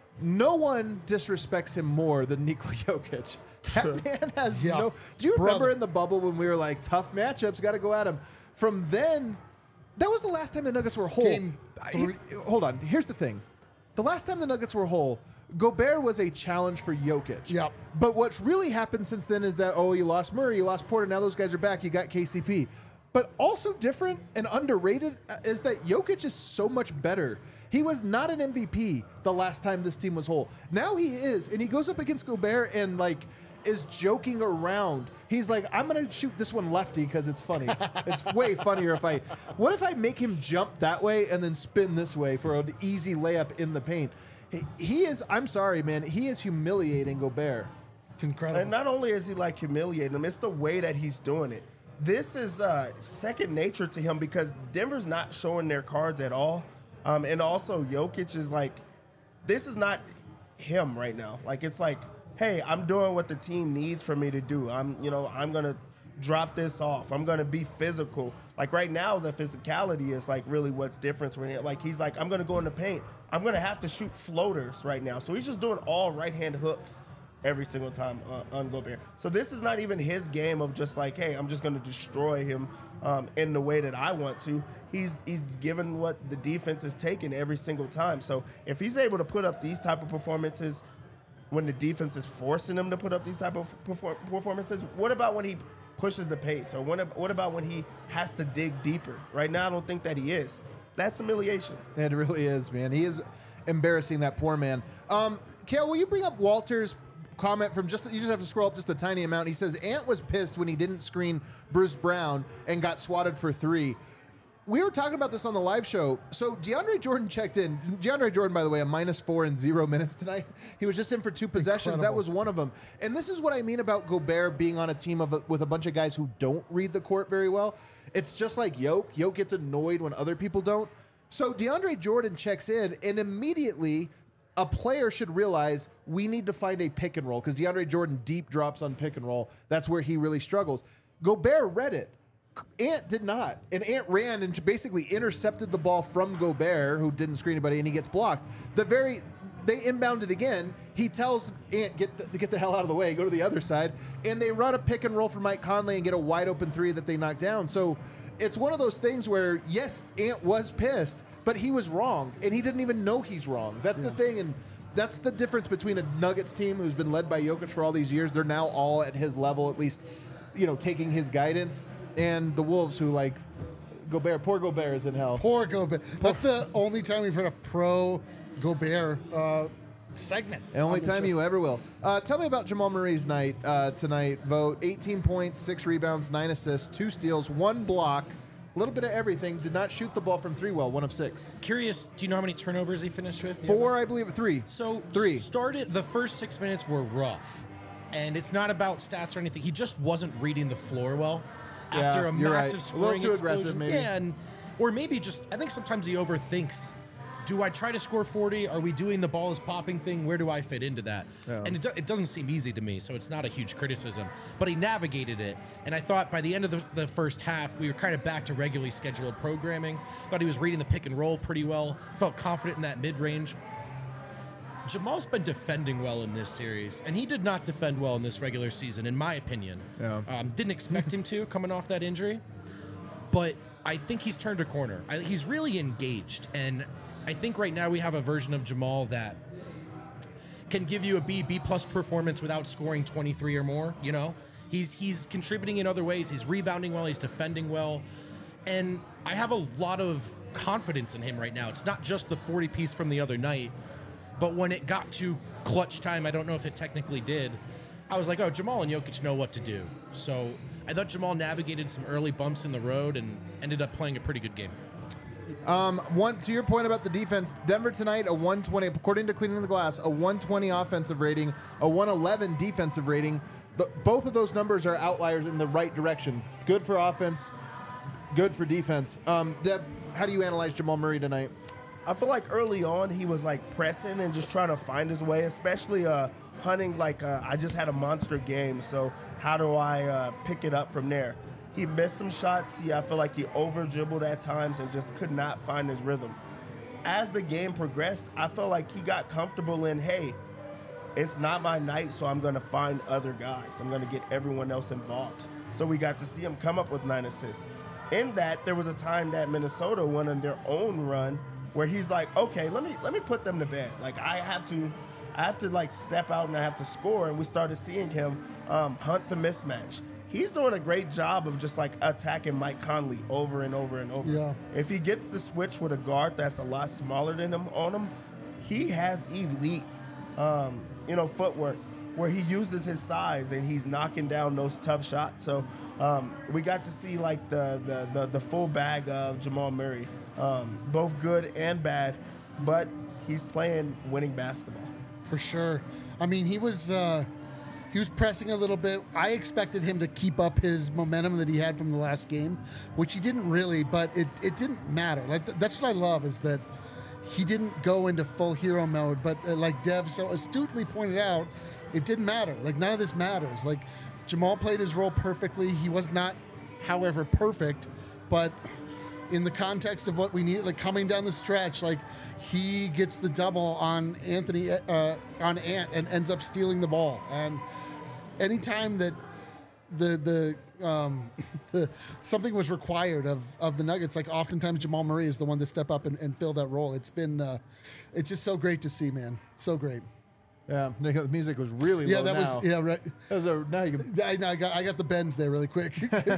no one disrespects him more than Nikola Jokic. That man has Yeah. no. Do you remember Brother. in the bubble when we were like, tough matchups, got to go at him? From then, that was the last time the Nuggets were whole. Game I- three. hold on. Here's the thing. The last time the Nuggets were whole, Gobert was a challenge for Jokic. Yep. But what's really happened since then is that, oh, you lost Murray, you lost Porter, now those guys are back, you got K C P. But also different and underrated uh, is that Jokic is so much better. He was not an M V P the last time this team was whole. Now he is, and he goes up against Gobert and, like, is joking around. He's like, I'm going to shoot this one lefty because it's funny. It's way funnier if I... What if I make him jump that way and then spin this way for an easy layup in the paint? He, he is... I'm sorry, man. He is humiliating Gobert. It's incredible. And not only is he like humiliating him, it's the way that he's doing it. This is uh, second nature to him because Denver's not showing their cards at all. Um, and also, Jokic is like, this is not him right now. Like, it's like, hey, I'm doing what the team needs for me to do. I'm, you know, I'm going to drop this off. I'm going to be physical. Like, right now, the physicality is, like, really what's different. When like, he's like, I'm going to go in the paint. I'm going to have to shoot floaters right now. So he's just doing all right-hand hooks every single time uh, on Gobert. So this is not even his game of just like, hey, I'm just going to destroy him um, in the way that I want to. He's he's given what the defense is taking every single time. So if he's able to put up these type of performances when the defense is forcing him to put up these type of perform- performances, what about when he pushes the pace? Or when, what about when he has to dig deeper? Right now, I don't think that he is. That's humiliation. It really is, man. He is embarrassing that poor man. Um, Kale, will you bring up Walter's comment from just, you just have to scroll up just a tiny amount. He says, Ant was pissed when he didn't screen Bruce Brown and got swatted for three. We were talking about this on the live show. So DeAndre Jordan checked in. DeAndre Jordan, by the way, a minus four in zero minutes tonight. He was just in for two possessions. That Incredible. was one of them. And this is what I mean about Gobert being on a team of a, with a bunch of guys who don't read the court very well. It's just like Yoke. Yoke gets annoyed when other people don't. So DeAndre Jordan checks in, and immediately a player should realize we need to find a pick and roll because DeAndre Jordan deep drops on pick and roll. That's where he really struggles. Gobert read it. Ant did not. And Ant ran and basically intercepted the ball from Gobert, who didn't screen anybody, and he gets blocked. The very they inbounded again. He tells Ant, get the, get the hell out of the way, go to the other side. And they run a pick and roll for Mike Conley and get a wide open three that they knock down. So it's one of those things where, yes, Ant was pissed, but he was wrong. And he didn't even know he's wrong. That's the thing. And that's the difference between a Nuggets team who's been led by Jokic for all these years. They're now all at his level, at least, you know, taking his guidance. And the Wolves, who like Gobert, poor Gobert is in hell. Poor Gobert. That's the only time we've heard a pro Gobert uh, segment. The only on the time show. you ever will. Uh, tell me about Jamal Murray's night uh, tonight. Vote eighteen points, six rebounds, nine assists, two steals, one block, A little bit of everything. Did not shoot the ball from three well, one of six. Curious, do you know how many turnovers he finished with? Do you have Four, I believe, three. So Three. started the first six minutes were rough, and it's not about stats or anything. He just wasn't reading the floor well after Yeah, a you're massive right. A scoring little too explosion. aggressive, maybe. Yeah, and or maybe just I think sometimes he overthinks. Do I try to score forty? Are we doing the ball is popping thing? Where do I fit into that? Yeah. And it, do, it doesn't seem easy to me, so it's not a huge criticism. But he navigated it, and I thought by the end of the, the first half, we were kind of back to regularly scheduled programming. Thought he was reading the pick and roll pretty well. Felt confident in that mid range. Jamal's been defending well in this series, and he did not defend well in this regular season, in my opinion. Yeah. Um, didn't expect him to coming off that injury, but I think he's turned a corner. I, he's really engaged, and I think right now we have a version of Jamal that can give you a B, B plus performance without scoring twenty-three or more. You know, he's he's contributing in other ways. He's rebounding well. He's defending well, and I have a lot of confidence in him right now. It's not just the forty piece from the other night, but when it got to clutch time, I don't know if it technically did. I was like, oh, Jamal and Jokic know what to do. So I thought Jamal navigated some early bumps in the road and ended up playing a pretty good game. Um, one to your point about the defense, Denver tonight a one twenty according to Cleaning the Glass, a one twenty offensive rating, a one eleven defensive rating. The, both of those numbers are outliers in the right direction. Good for offense, good for defense. Um, Dev, how do you analyze Jamal Murray tonight? I feel like early on he was like pressing and just trying to find his way, especially uh, hunting like uh, I just had a monster game, so how do I uh, pick it up from there? He missed some shots. He, I feel like he over dribbled at times and just could not find his rhythm. As the game progressed, I felt like he got comfortable in, hey, it's not my night, so I'm going to find other guys. I'm going to get everyone else involved. So we got to see him come up with nine assists. In that, there was a time that Minnesota went on their own run where he's like, okay, let me let me put them to bed. Like I have to, I have to like step out and I have to score. And we started seeing him um, hunt the mismatch. He's doing a great job of just like attacking Mike Conley over and over and over. Yeah. If he gets the switch with a guard that's a lot smaller than him on him, he has elite, um, you know, footwork where he uses his size and he's knocking down those tough shots. So um, we got to see like the, the the the full bag of Jamal Murray, um, both good and bad, but he's playing winning basketball. For sure. I mean, he was uh, he was pressing a little bit. I expected him to keep up his momentum that he had from the last game, which he didn't really, but it, it didn't matter. Like th- that's what I love is that he didn't go into full hero mode, but uh, like Dev so astutely pointed out, it didn't matter. Like none of this matters. Like Jamal played his role perfectly. He was not, however, perfect, but in the context of what we need, like coming down the stretch, like he gets the double on Anthony, uh, on Ant, and ends up stealing the ball. And anytime that the the um, the something was required of of the Nuggets, like oftentimes Jamal Murray is the one to step up and, and fill that role. It's been, uh, it's just so great to see, man. So great. Yeah, the music was really Yeah, low that now. was yeah right. That was a, now you can, I, I got I got the bends there really quick.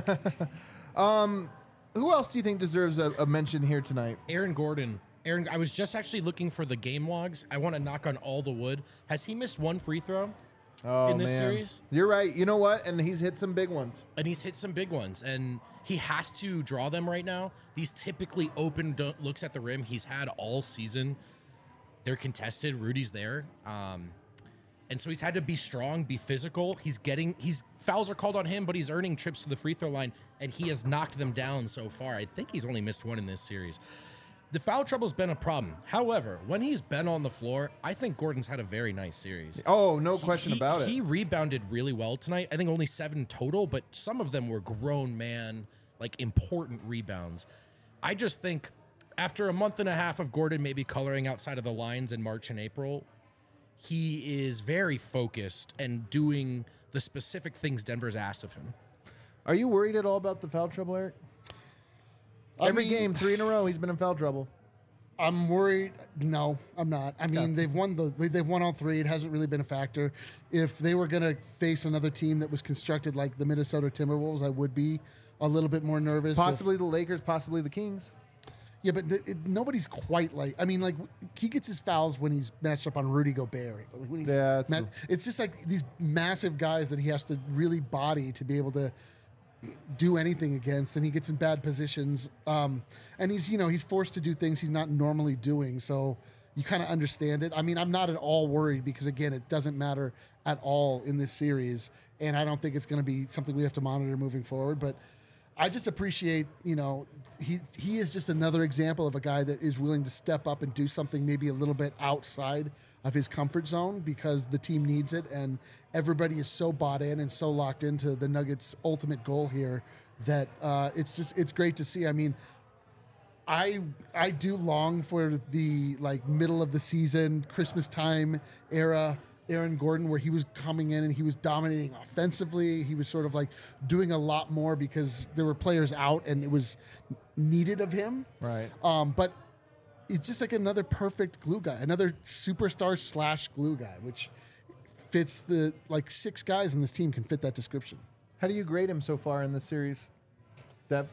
who else do you think deserves a, a mention here tonight? Aaron Gordon. Aaron, I was just actually looking for the game logs. I want to knock on all the wood. Has he missed one free throw Oh, in this man. series? You're right. You know what? And he's hit some big ones. And he's hit some big ones, and he has to draw them right now. These typically open do- looks at the rim he's had all season. They're contested. Rudy's there. Um, and so he's had to be strong, be physical. He's getting, he's fouls are called on him, but he's earning trips to the free throw line, and he has knocked them down so far. I think he's only missed one in this series. The foul trouble's been a problem. However, when he's been on the floor, I think Gordon's had a very nice series. Oh, no question He- about it. He rebounded really well tonight. I think only seven total, but some of them were grown man, like important rebounds. I just think after a month and a half of Gordon maybe coloring outside of the lines in March and April, he is very focused and doing the specific things Denver's asked of him. Are you worried at all about the foul trouble, Eric? I Every mean, game, three in a row, he's been in foul trouble. I'm worried. No, I'm not. I mean, Okay. they've won the they've won all three. It hasn't really been a factor. If they were going to face another team that was constructed like the Minnesota Timberwolves, I would be a little bit more nervous. if- Possibly the Lakers, possibly the Kings. yeah, but the, it, nobody's quite like. I mean, like he gets his fouls when he's matched up on Rudy Gobert. Like, when he's Yeah, that's ma- true. it's just like these massive guys that he has to really body to be able to do anything against, and he gets in bad positions. Um, and he's, you know, he's forced to do things he's not normally doing. So you kind of understand it. I mean, I'm not at all worried because, again, it doesn't matter at all in this series. And I don't think it's going to be something we have to monitor moving forward. But I just appreciate, you know, he he is just another example of a guy that is willing to step up and do something maybe a little bit outside of his comfort zone because the team needs it, and everybody is so bought in and so locked into the Nuggets' ultimate goal here that uh, it's just it's great to see. I mean, I I do long for the like middle of the season, Christmas time era Aaron Gordon, where he was coming in and he was dominating offensively. He was sort of like doing a lot more because there were players out and it was needed of him. Right. Um, but it's just like another perfect glue guy, another superstar slash glue guy, which fits the like six guys in this team can fit that description. How do you grade him so far in this series, Dev?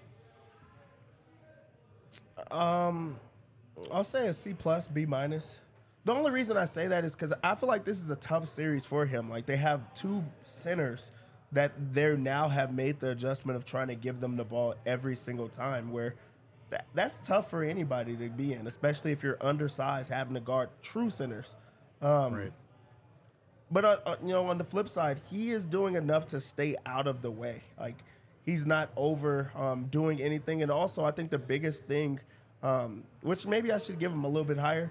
Um, I'll say a C plus, B minus. The only reason I say that is because I feel like this is a tough series for him. Like, they have two centers that they now have made the adjustment of trying to give them the ball every single time, where that, that's tough for anybody to be in, especially if you're undersized, having to guard true centers. Um, Right. But, uh, uh, you know, on the flip side, he is doing enough to stay out of the way. Like, he's not over um, doing anything. And also, I think the biggest thing, um, which maybe I should give him a little bit higher,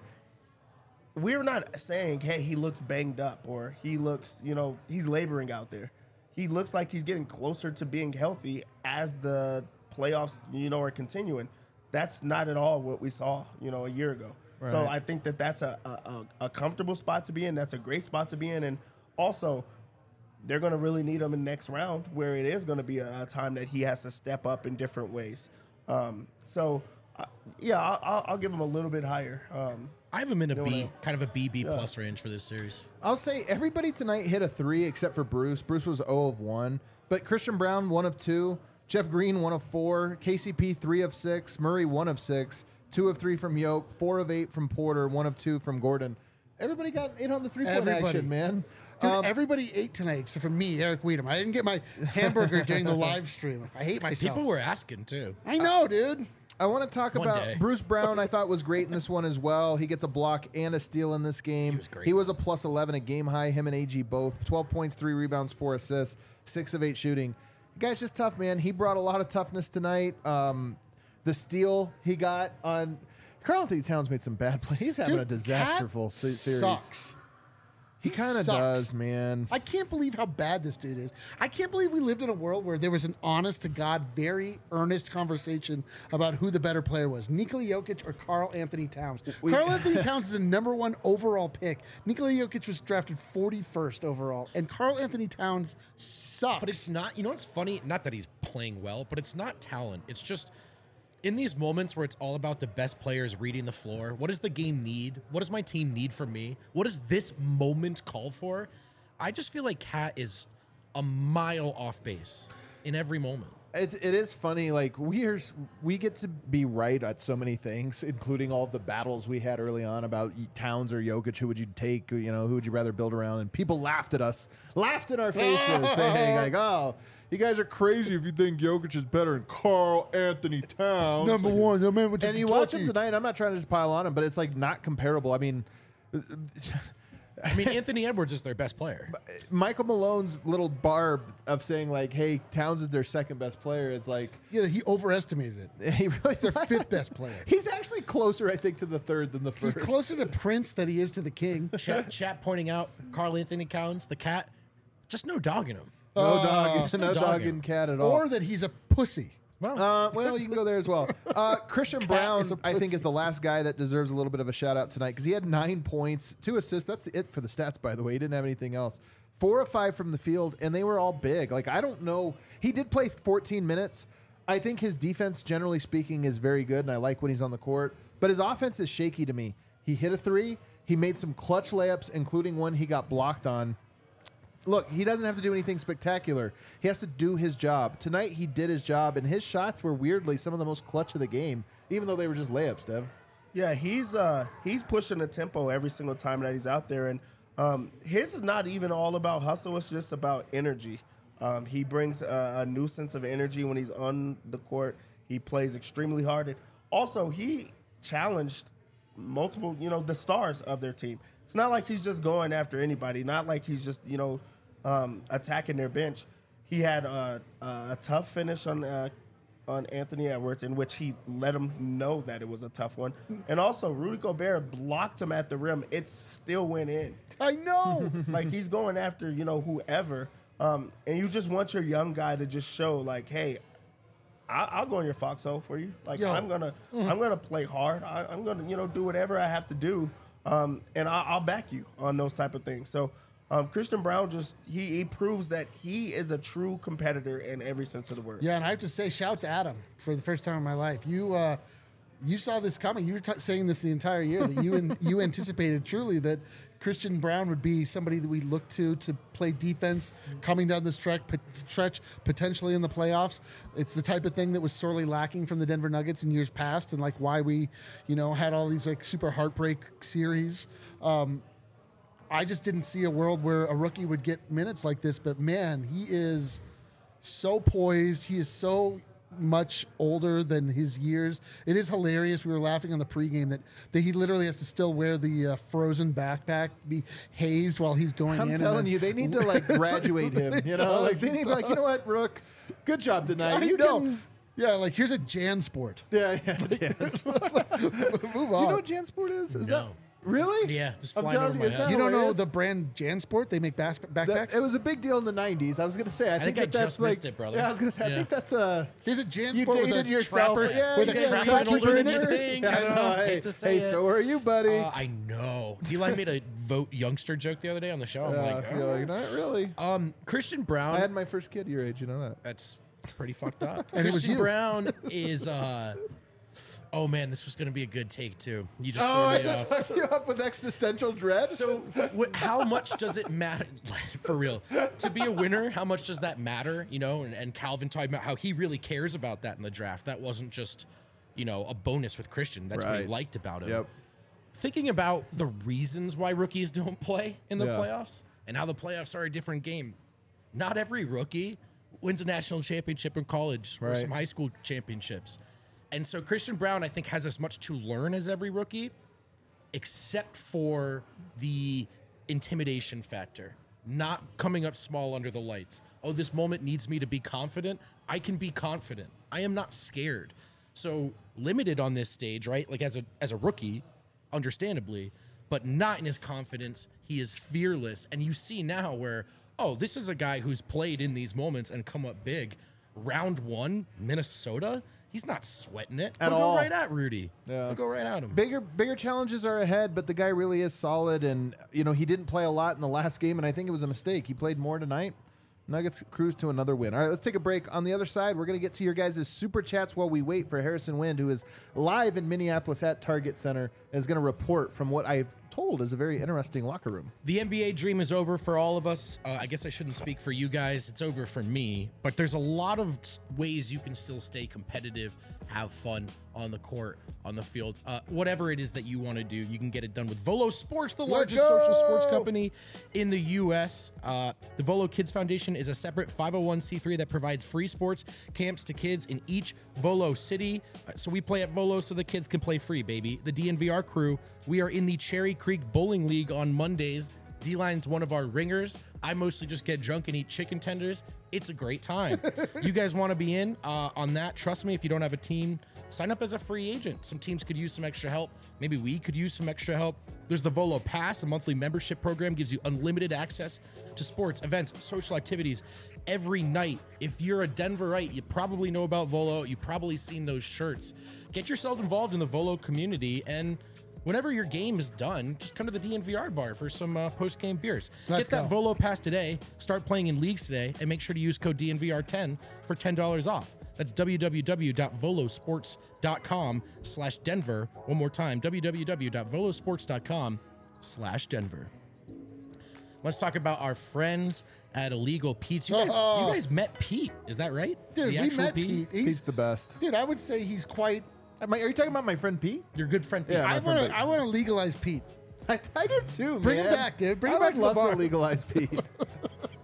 we're not saying, hey, he looks banged up or he looks, you know, he's laboring out there. He looks like he's getting closer to being healthy as the playoffs, you know, are continuing. That's not at all what we saw, you know, a year ago. Right. So I think that that's a, a, a comfortable spot to be in. That's a great spot to be in. And also, they're going to really need him in the next round where it is going to be a, a time that he has to step up in different ways. Um, so, uh, yeah, I'll, I'll, I'll give him a little bit higher. Um, I have him in a You B, know, kind of a B, B plus range for this series. I'll say everybody tonight hit a three except for Bruce. Bruce was zero of one. But Christian Brown, one of two. Jeff Green, one of four. K C P, three of six. Murray, one of six. Two of three from Yoke. Four of eight from Porter. One of two from Gordon. Everybody got eight on the three-point Everybody. action, man. Dude, Um, everybody ate tonight except for me, Eric Weedham. I didn't get my hamburger during the live stream. I hate myself. People were asking, too. I know, dude. I want to talk One about day. Bruce Brown. I thought was great in this one as well. He gets a block and a steal in this game. He was great. He was a plus eleven, a game high. Him and A G both. twelve points, three rebounds, four assists, six of eight shooting. The guy's just tough, man. He brought a lot of toughness tonight. Um, the steal he got on Karl Anthony Towns made some bad plays. He's having Dude, a disasterful Cat se- series. Sucks. He kind of sucks. does, man. I can't believe how bad this dude is. I can't believe we lived in a world where there was an honest to God, very earnest conversation about who the better player was, Nikola Jokic or Karl Anthony Towns. We- Karl Anthony Towns is a number one overall pick. Nikola Jokic was drafted forty-first overall, and Karl Anthony Towns sucks. But it's not, you know what's funny? Not that he's playing well, but it's not talent. It's just in these moments where it's all about the best players reading the floor. What does the game need? What does my team need from me? What does this moment call for? I just feel like Cat is a mile off base in every moment. It's, it is funny. Like we are, we get to be right at so many things, including all of the battles we had early on about Towns or Jokic. Who would you take? You know, who would you rather build around? And people laughed at us, laughed in our faces, saying like, "Oh, you guys are crazy if you think Jokic is better than Karl Anthony Towns." number one, the man with And you watch him tonight. I'm not trying to just pile on him, but it's like not comparable. I mean. I mean, Anthony Edwards is their best player. Michael Malone's little barb of saying like, "Hey, Towns is their second best player." Is like Yeah, he overestimated it. he really Their fifth best player. He's actually closer, I think, to the third than the He's first. closer to Prince than he is to the King. Chat, chat pointing out Karl Anthony Towns, the Cat, just no dogging him. No Uh, dog, it's no no dog dog in. and cat at all. Or that he's a pussy. Uh, well, you can go there as well. Uh, Christian Brown, is a I think, pussy. is the last guy that deserves a little bit of a shout out tonight because he had nine points, two assists. That's it for the stats, by the way. He didn't have anything else. Four of five from the field, and they were all big. Like I don't know. He did play fourteen minutes. I think his defense, generally speaking, is very good, and I like when he's on the court. But his offense is shaky to me. He hit a three. He made some clutch layups, including one he got blocked on. Look, he doesn't have to do anything spectacular. He has to do his job. Tonight, he did his job, and his shots were weirdly some of the most clutch of the game, even though they were just layups, Dev. Yeah, he's uh he's pushing the tempo every single time that he's out there, and um, his is not even all about hustle. It's just about energy. Um, he brings a, a new sense of energy when he's on the court. He plays extremely hard. And also, he challenged multiple, you know, the stars of their team. It's not like he's just going after anybody. Not like he's just, you know, um, attacking their bench. He had a, a tough finish on uh, on Anthony Edwards, in which he let him know that it was a tough one. And also, Rudy Gobert blocked him at the rim. It still went in. I know. Like, he's going after, you know, whoever. Um, and you just want your young guy to just show, like, hey, I, I'll go in your foxhole for you. Like, Yo. I'm gonna, I'm gonna play hard. I, I'm gonna, you know, do whatever I have to do, um, and I, I'll back you on those type of things. So, um, Christian Braun just he, he proves that he is a true competitor in every sense of the word. Yeah, and I have to say, shouts at him for the first time in my life. You, uh, you saw this coming. You were t- saying this the entire year that you and you anticipated truly that Christian Braun would be somebody that we look to to play defense coming down the stretch, p- stretch potentially in the playoffs. It's the type of thing that was sorely lacking from the Denver Nuggets in years past, and like why we, you know, had all these like super heartbreak series. Um, I just didn't see a world where a rookie would get minutes like this, but man, he is so poised. He is so much older than his years. It is hilarious. We were laughing on the pregame that, that he literally has to still wear the uh, frozen backpack, be hazed while he's going I'm in. telling and then, you, they need to like graduate him. You know, does, like they it need to, like, you know what, Rook, good job tonight. I You know. can, Yeah, like here's a Jan Sport. yeah, yeah. Jansport. Move Do on. you know what Jansport is? Is No. that really? Yeah, just I'm flying telling over you, my is head. that You don't know hilarious? the brand Jan Sport? They make bas- backpacks. That- it was a big deal in the nineties. I was gonna say. I, think, think I that that's just like. missed it, brother. Yeah, I was gonna say. I Yeah. think that's a. Here's a Jan You Sport with a dated yourself. trapper, Yeah, with you a got trapper trapper older than in you it. think. Yeah, I I don't know. know. Hey, Hate to say hey, it. so are you, buddy? Uh, I know. Eli made a vote youngster joke the other day on the show. I'm Yeah, like, you're oh. like, not really. um, Christian Brown. I had my first kid your age. You know that. That's pretty fucked up. And it was Christian you. Brown is. uh Oh man, this was gonna be a good take too. You just Oh, threw I me just off. fucked you up with existential dread. So, wh- how much does it matter, for real, to be a winner? How much does that matter? You know, and, and Calvin talking about how he really cares about that in the draft. That wasn't just, you know, a bonus with Christian. That's what he Right. liked about him. Yep. Thinking about the reasons why rookies don't play in the Yeah. playoffs and how the playoffs are a different game. Not every rookie wins a national championship in college or Right. some high school championships. And so Christian Brown, I think, has as much to learn as every rookie, except for the intimidation factor. Not coming up small under the lights. Oh, this moment needs me to be confident. I can be confident. I am not scared. So limited on this stage, right? Like as a as a rookie, understandably, but not in his confidence. He is fearless. And you see now where, oh, this is a guy who's played in these moments and come up big. Round one, Minnesota. He's not sweating it. At He'll all. go right at Rudy. Yeah. He'll go right at him. Bigger, bigger challenges are ahead, but the guy really is solid. And you know, he didn't play a lot in the last game, and I think it was a mistake. He played more tonight. Nuggets cruise to another win. All right, let's take a break. On the other side, we're going to get to your guys' super chats while we wait for Harrison Wind, who is live in Minneapolis at Target Center, and is going to report from what I've told is a very interesting locker room. The N B A dream is over for all of us. Uh, I guess I shouldn't speak for you guys. It's over for me. But there's a lot of s- ways you can still stay competitive, have fun on the court, on the field. Uh, whatever it is that you want to do, you can get it done with Volo Sports, the largest go! social sports company in the U S. Uh, the Volo Kids Foundation is a separate five oh one c three that provides free sports camps to kids in each Volo city. Uh, so we play at Volo so the kids can play free, baby. The D N V R crew, we are in the Cherry Creek Bowling League on Mondays. D-Line's one of our ringers. I mostly just get drunk and eat chicken tenders. It's a great time. You guys want to be in uh, on that? Trust me, if you don't have a team, sign up as a free agent. Some teams could use some extra help. Maybe we could use some extra help. There's the Volo Pass, a monthly membership program, gives you unlimited access to sports, events, social activities every night. If you're a Denverite, you probably know about Volo. You've probably seen those shirts. Get yourself involved in the Volo community, and whenever your game is done, just come to the D N V R bar for some uh, post-game beers. Let's Get that go. Volo Pass today, start playing in leagues today, and make sure to use code D N V R ten for ten dollars off. That's www.volosports.com slash Denver. One more time, www.volosports.com slash Denver. Let's talk about our friends at Illegal Pete's. You guys, Oh. you guys met Pete, is that right? Dude, The we actual met Pete. He's He's, the best. dude, I would say he's quite. Am I- Are you talking about my friend Pete? Your good friend Pete. Yeah, my I friend want to. Pete. I want to legalize Pete. I, I do too, Bring him man. back, dude. Bring I him back would to the love bar. to legalize Pete.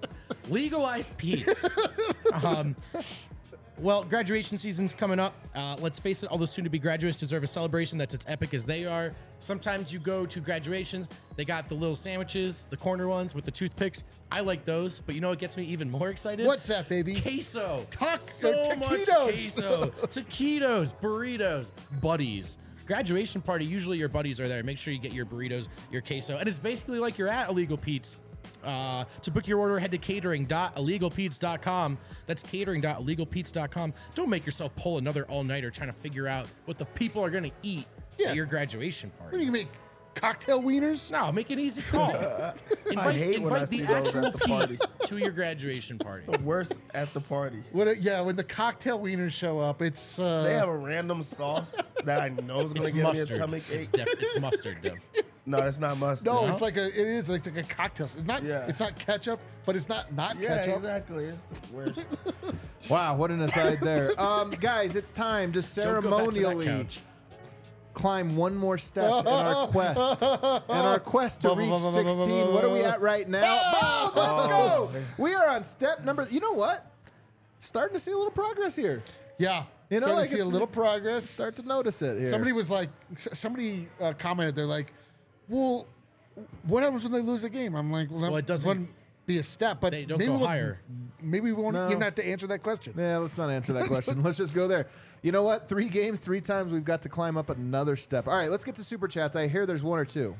Legalize Pete's. um, well, graduation season's coming up. Uh, let's face it, all those soon-to-be graduates deserve a celebration that's as epic as they are. Sometimes you go to graduations, they got the little sandwiches, the corner ones with the toothpicks. I like those, but you know what gets me even more excited? What's that, baby? Queso. Taco- so much taquitos. queso. Taquitos, burritos, buddies. Graduation party, usually your buddies are there. Make sure you get your burritos, your queso. And it's basically like you're at Illegal Pete's. Uh, to book your order, head to catering dot illegal pete's dot com. That's catering dot illegal pete's dot com. Don't make yourself pull another all-nighter trying to figure out what the people are going to eat Yeah. at your graduation What party. do you make? Cocktail wieners? No, make an easy call. invite hate when I invite see the those actual at the party. Pete to your graduation party. Worse at the party. What? A, yeah, when the cocktail wieners show up, it's uh, They have a random sauce that I know is going to It's give mustard. me a tummy It's, ache. def- it's mustard, Dev. No, it's not mustard. no, No? it's like a. It is. It's like a cocktail. It's not. Yeah. It's not ketchup, but it's not not Yeah, ketchup. exactly. It's the worst. Wow, what an aside there. Um, guys, it's time to Don't go back to that ceremonially couch. climb one more step in our quest. In our quest to reach sixteen. What are we at right now? Boom, let's go. We are on step number. You know what? Starting to see a little progress here. Yeah. You know, Starting like to see a it's- little progress. Start to notice it here. Somebody was like, s- somebody uh, commented, they're like, well, what happens when they lose a game? I'm like, well, that Well, it doesn't- wouldn't be a step, but They don't maybe go we'll- higher. Maybe we won't No. even have to answer that question. Yeah, let's not answer that question. Let's just go there. You know what? Three games, three times we've got to climb up another step. All right, let's get to super chats. I hear there's one or two.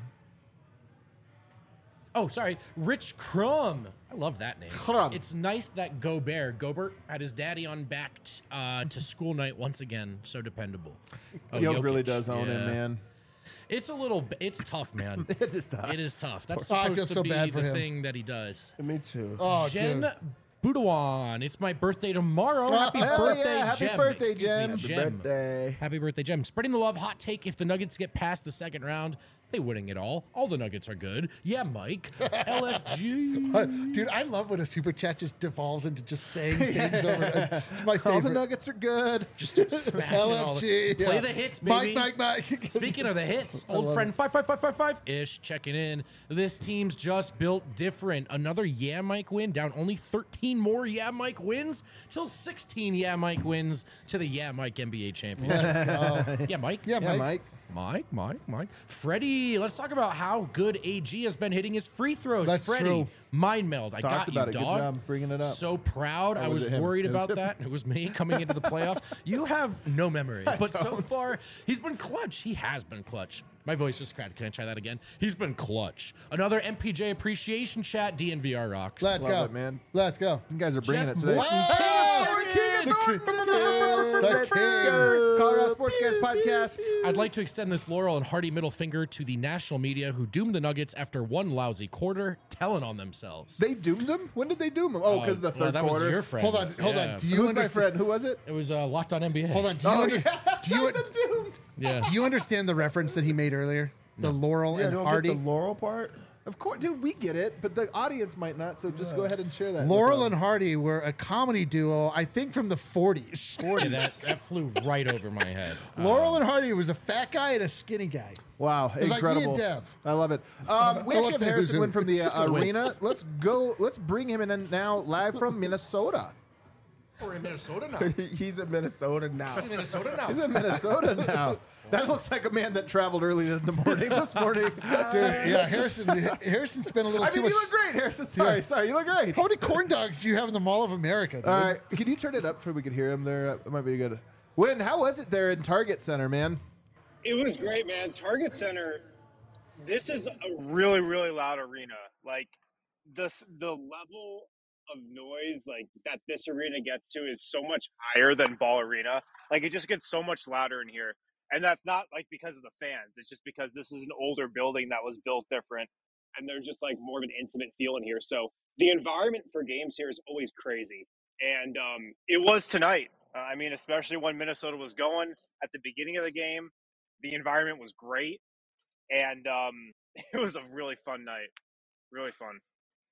Oh, sorry. Rich Crumb. I love that name. Crumb. It's nice that Gobert, Gobert, had his daddy on back t- uh, to school night once again. So dependable. Oh, Yoke really Jokic. does own him, Yeah. man. It's a little, b- it's tough, man. It is tough. It is tough. That's Oh, I supposed feel to so be bad for the him. thing that he does. Me too. Oh, Jen dude. Budawan. It's my birthday tomorrow. Happy hell birthday, yeah. Happy Jem. birthday, Excuse me, Jem. Happy Jem. birthday. Happy birthday, Jem. Spreading the love. Hot take. If the Nuggets get past the second round, they winning it all. All the Nuggets are good. Yeah, Mike. L F G. Uh, Dude, I love when a super chat just devolves into just saying things over. It's my All the favorite. Nuggets are good. Just smashing all L F G. the, Play yeah. the hits, Mike, baby. Mike, Mike. Speaking of the hits, I old love friend it. five five five five five ish checking in. This team's just built different. Another Yeah Mike win, down only thirteen more Yeah Mike wins till sixteen Yeah Mike wins to the Yeah Mike N B A championship. Let's go. Yeah Mike. Yeah, Yeah, Mike. Mike. Mike, Mike, Mike. Freddie, let's talk about how good A G has been hitting his free throws. That's Freddie, true. mind meld. I Talked got about you, it. Good dog. job bringing it up. So proud. I was was it him? worried It was about him. that. It was me coming into the playoffs. You have no memory, but so far he's been clutch. He has been clutch. My voice just cracked. Can I try that again? He's been clutch. Another M P J appreciation chat. D N V R rocks. Let's Love go. it, man. Let's go. You guys are bringing Jeff it today. Morton, Oh, King of the King of Thornton. Thornton. The Let's King. go. Colorado Sportscast Podcast. I'd like to extend this laurel and hearty middle finger to the national media who doomed the Nuggets after one lousy quarter, telling on themselves. They doomed them? When did they doom them? Oh, because the Uh, third well, that quarter. was your friend. Hold on, hold on. Do you Who's my understand? friend? Who was it? It was uh, Locked on N B A. Hold on. Do you, Oh, under- yeah. do you, the doomed. Yeah. do you understand the reference that he made earlier? The Laurel Yeah, and don't Hardy. get the Laurel part. Of course, dude, we get it, but the audience might not, so just go ahead and share that. with Laurel them. and Hardy were a comedy duo, I think from the forties. Yeah, that, that flew right over my head. Laurel and Hardy was a fat guy and a skinny guy. Wow, was like me incredible! and Dev. I love it. Um, we I actually won't have say who's Harrison who. win from the uh, gonna win. arena. Let's go. Let's bring him in and now live from Minnesota. We're in Minnesota now. He's in Minnesota now. Minnesota now. He's in Minnesota now. That looks like a man that traveled early in the morning this morning. Dude, yeah, Harrison. Harrison spent a little I too mean, much. you look great, Harrison. Sorry, Yeah. sorry, you look great. How many corn dogs do you have in the Mall of America? Dude? All right, can you turn it up so we could hear him there? It might be good. Win, how was it there in Target Center, man? It was great, man. Target Center, this is a really, really loud arena. Like, this, the level of noise like that this arena gets to is so much higher than Ball Arena. Like, it just gets so much louder in here. And that's not, like, because of the fans. It's just because this is an older building that was built different. And there's just, like, more of an intimate feel in here. So the environment for games here is always crazy. And um, it was tonight. Uh, I mean, especially when Minnesota was going at the beginning of the game. The environment was great, and um, it was a really fun night. Really fun.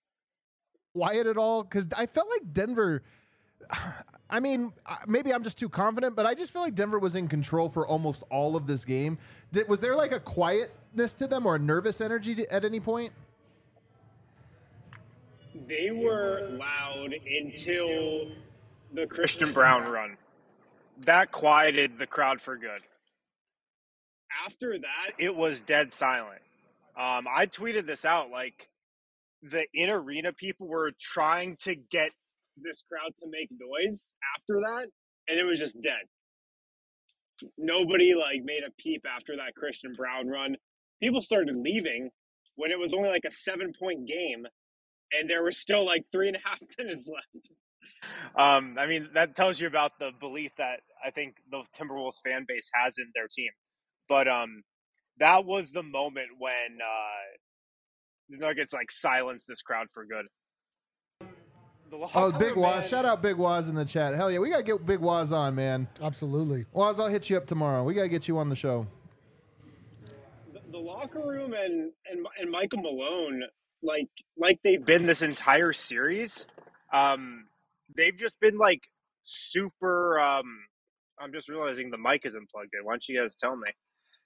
Quiet at all? Because I felt like Denver. I mean, uh, maybe I'm just too confident, but I just feel like Denver was in control for almost all of this game. Did, was there like a quietness to them or a nervous energy to, at any point? they were loud until the Christian Brown run. That quieted the crowd for good. After that, it was dead silent. Um, I tweeted this out, like, the in-arena people were trying to get this crowd to make noise after that, and it was just dead. Nobody, like, made a peep after that Christian Brown run. People started leaving when it was only, like, a seven-point game, and there were still, like, three and a half minutes left. Um, I mean, that tells you about the belief that I think the Timberwolves fan base has in their team. But um, that was the moment when uh, the Nuggets like silenced this crowd for good. Oh, Big Waz. Shout out Big Waz in the chat. Hell yeah, we got to get Big Waz on, man. Absolutely. Waz, I'll hit you up tomorrow. We got to get you on the show. The, the locker room and, and and Michael Malone, like like they've been this entire series, um, they've just been like super. Um, I'm just realizing the mic isn't plugged in. Why don't you guys tell me?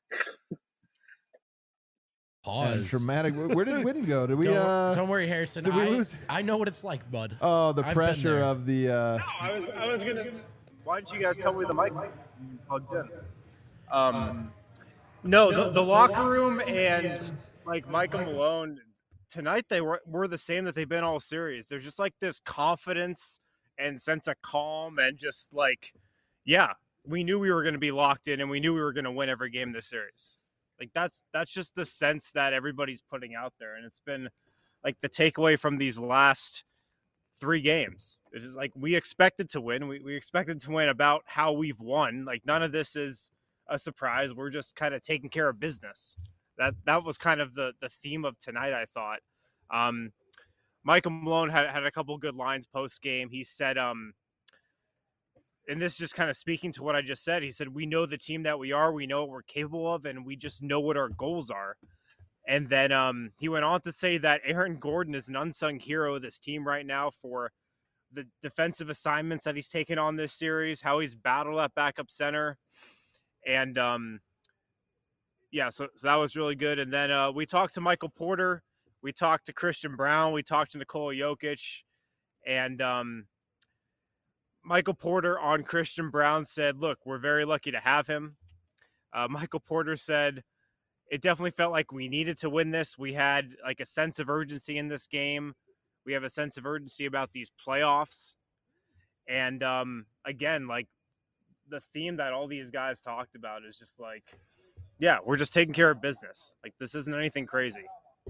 Pause. And dramatic. Where did Witten go? Did we? Don't, Uh, don't worry, Harrison. did we I, lose? I know what it's like, bud. oh, the I've been pressure there. of the. Uh, No, I was I was gonna. Why didn't you guys tell me the mic plugged in? Um, no, the, the locker room and like Michael Malone tonight they were were the same that they've been all series. There's just like this confidence and sense of calm and just like, yeah, we knew we were going to be locked in and we knew we were going to win every game this series. Like that's that's just the sense that everybody's putting out there, and it's been like the takeaway from these last three games. It is like we expected to win. We we expected to win about how we've won. Like none of this is a surprise. We're just kind of taking care of business. That that was kind of the the theme of tonight, I thought. Um, Michael Malone had had a couple good lines post game. He said, um, and this is just kind of speaking to what I just said. He said, "We know the team that we are. We know what we're capable of, and we just know what our goals are." And then um, he went on to say that Aaron Gordon is an unsung hero of this team right now for the defensive assignments that he's taken on this series, how he's battled at backup center. And um, yeah, so, so that was really good. And then uh, we talked to Michael Porter. We talked to Christian Brown. We talked to Nikola Jokic. And um, Michael Porter on Christian Brown said, look, we're very lucky to have him. Uh, Michael Porter said, it definitely felt like we needed to win this. We had like a sense of urgency in this game. We have a sense of urgency about these playoffs. And um, again, like the theme that all these guys talked about is just like, yeah, we're just taking care of business. Like this isn't anything crazy.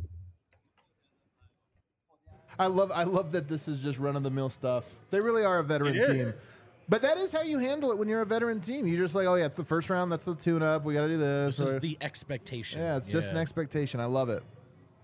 I love I love that this is just run-of-the-mill stuff. They really are a veteran It is. team. But that is how you handle it when you're a veteran team. You're just like, oh, yeah, it's the first round. That's the tune-up. We got to do this. This or- is the expectation. yeah, it's just an expectation. I love it.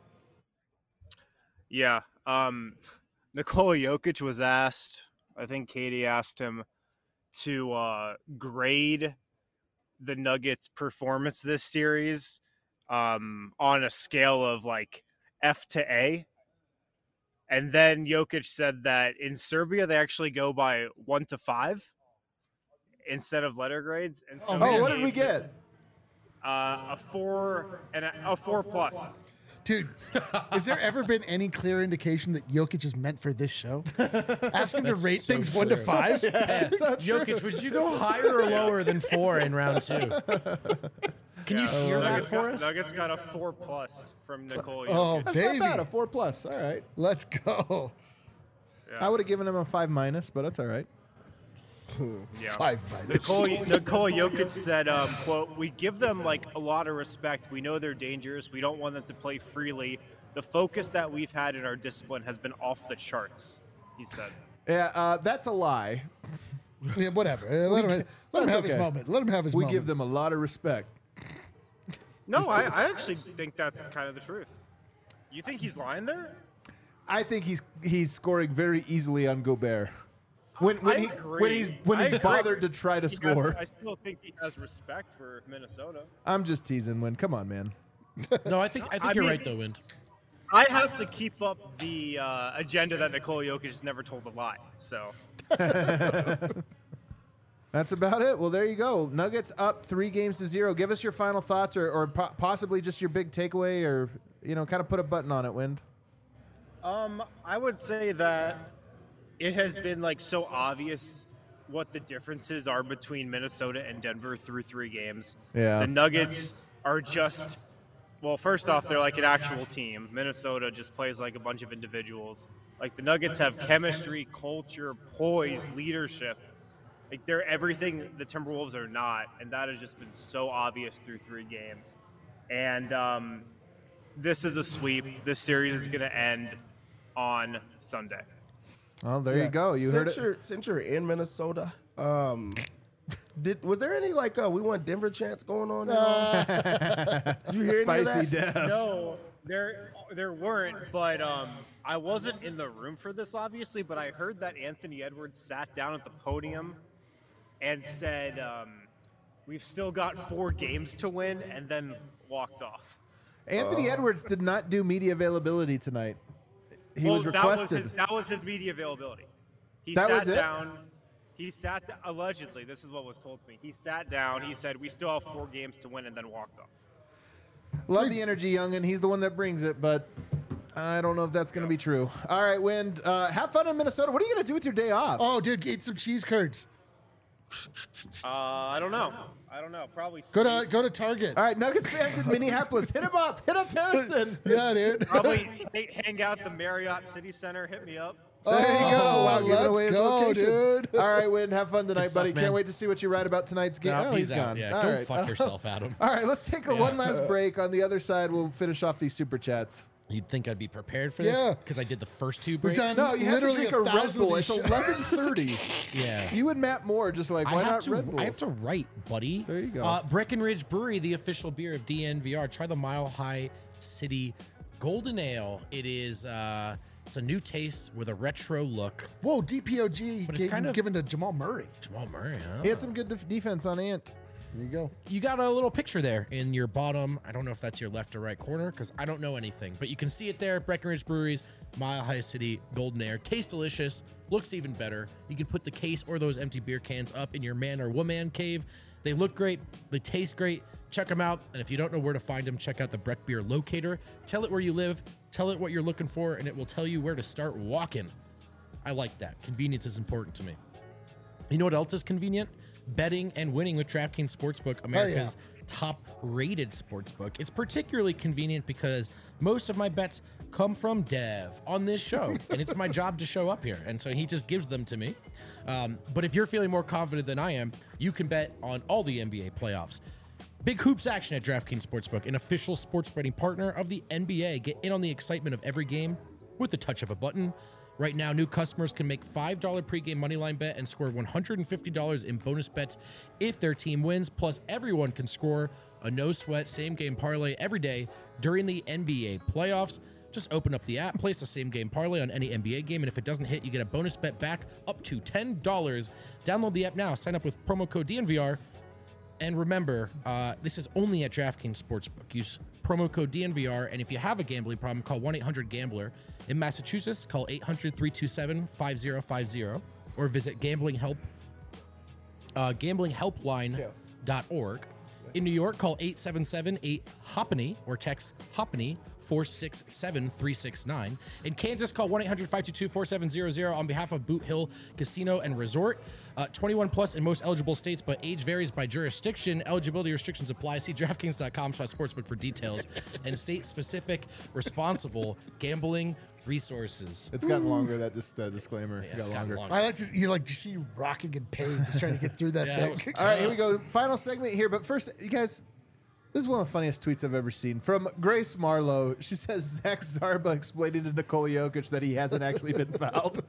Yeah. Um, Nikola Jokic was asked, I think Katie asked him to uh, grade the Nuggets' performance this series um, on a scale of like F to A. And then Jokic said that in Serbia, they actually go by one to five instead of letter grades. And so Oh, he man. Oh, what did we gave get? Uh, a four and a, a four plus. Dude, has there ever been any clear indication that Jokic is meant for this show? Ask him to rate so things one to true. five. Jokic, would you go higher or lower than four in round two? Can you hear that Nuggets for got, us? Nuggets got a four plus from Nikola Jokic. Oh, That's baby. not bad. A four plus. All right. Let's go. I would have given him a five minus, but that's all right. Yeah. Five minus. Nikola, Nikola Jokic said, um, quote, we give them like a lot of respect. We know they're dangerous. We don't want them to play freely. The focus that we've had in our discipline has been off the charts, he said. Yeah, uh, that's a lie. Yeah, whatever. Uh, Let him, let him That's have his okay. moment. Let him have his We moment. give them a lot of respect. No, I, I actually think that's kind of the truth. You think he's lying there? I think he's he's scoring very easily on Gobert. When when I he agree. when he's when I he's agree. bothered to try to He has- score. I still think he has respect for Minnesota. I'm just teasing. Win, come on, man. No, I think I think I you're mean- right though, Wind. I have to keep up the uh, agenda that Nikola Jokic has never told a lie. So That's about it. Well, there you go. Nuggets up three games to zero. Give us your final thoughts, or, or po- possibly just your big takeaway, or you know, kind of put a button on it. Wind. Um, I would say that it has been like so obvious what the differences are between Minnesota and Denver through three games. Yeah. The Nuggets are just, well, first off, they're like an actual team. Minnesota just plays like a bunch of individuals. Like the Nuggets have chemistry, culture, poise, leadership. Like they're everything the Timberwolves are not, and that has just been so obvious through three games. And um, this is a sweep. This series is going to end on Sunday. Well, there Yeah. you go. You since heard it. You're, since you're in Minnesota, um, did was there any like uh, we want Denver chants going on? Did you hear any of Spicy that? Dev. No, there there weren't, but um, I wasn't in the room for this, obviously, but I heard that Anthony Edwards sat down at the podium and said, um, we've still got four games to win, and then walked off. Anthony Edwards did not do media availability tonight. He well, was that was, requested. his, that was his media availability. He That sat was it? down. He sat down, allegedly, this is what was told to me. He sat down, he said, we still have four games to win, and then walked off. Love the energy, Youngin. He's the one that brings it, but I don't know if that's going to be true. All right, Wind. Uh, have fun in Minnesota. What are you going to do with your day off? Oh, dude, eat some cheese curds. Uh, I don't know. I don't know. Probably Go sleep. to go to Target. All right, Nuggets fans in Minneapolis, hit him up. Hit up Harrison. Yeah, dude. Probably hang- hang out at the Marriott City Center. Hit me up. There you go. Oh, Wow, giving let's away his go, location. dude. All right, Win. Have fun tonight, stuff, buddy. Can't man. wait to see what you write about tonight's game. No, oh, he's he's out. gone. Yeah, All go right. fuck yourself, Adam. All right, let's take a Yeah. one last break. On the other side, we'll finish off these super chats. You'd think I'd be prepared for Yeah. this because I did the first two We've breaks. done No, you have to literally drink a, Red thousand of Bull. these It's shows. eleven thirty. Yeah. You and Matt Moore just like, I why have not to. Red Bull? I have to write, buddy. There you go. Uh, Breckenridge Brewery, the official beer of D N V R. Try the Mile High City Golden Ale. It is. Uh, it's a new taste with a retro look. Whoa, D P O G But it's gave, kind of- given to Jamal Murray. Jamal Murray, huh? He had some good def- defense on Ant. There you go. You got a little picture there in your bottom. I don't know if that's your left or right corner because I don't know anything, but you can see it there. Breckenridge Breweries, Mile High City Golden Ale. Tastes delicious. Looks even better. You can put the case or those empty beer cans up in your man or woman cave. They look great. They taste great. Check them out. And if you don't know where to find them, check out the Breck Beer Locator. Tell it where you live. Tell it what you're looking for, and it will tell you where to start walking. I like that. Convenience is important to me. You know what else is convenient? Betting and winning with DraftKings Sportsbook, America's top-rated sportsbook. It's particularly convenient because most of my bets come from Dev on this show, and it's my job to show up here, and so he just gives them to me. Um, but if you're feeling more confident than I am, you can bet on all the N B A playoffs. Big hoops action at DraftKings Sportsbook, an official sports betting partner of the N B A. Get in on the excitement of every game with the touch of a button. Right now, new customers can make five dollars pregame moneyline bet and score one hundred fifty dollars in bonus bets if their team wins. Plus, everyone can score a no-sweat same-game parlay every day during the N B A playoffs. Just open up the app, place a same-game parlay on any N B A game, and if it doesn't hit, you get a bonus bet back up to ten dollars. Download the app now. Sign up with promo code D N V R. And remember, uh, this is only at DraftKings Sportsbook. Use promo code D N V R, and if you have a gambling problem, call one eight hundred gambler. In Massachusetts, call eight hundred, three two seven, five zero five zero or visit gambling help, uh, gambling helpline dot org. In New York, call eight seven seven, eight, HOPPANY or text HOPPANY four six seven, three six nine. In Kansas, call one eight hundred, five two two, four seven zero zero on behalf of Boot Hill Casino and Resort. Uh, twenty-one plus in most eligible states, but age varies by jurisdiction. Eligibility restrictions apply. See DraftKings dot com slash sportsbook for details and state-specific responsible gambling resources. It's gotten longer, that dis- uh, disclaimer. Yeah, Got it's gotten longer. longer. I like to you like you see you rocking in pain, just trying to get through that Yeah, thing. that was- All right, here we go. Final segment here. But first, you guys, this is one of the funniest tweets I've ever seen. From Grace Marlowe. She says, Zach Zarba explaining to Nikola Jokic that he hasn't actually been fouled.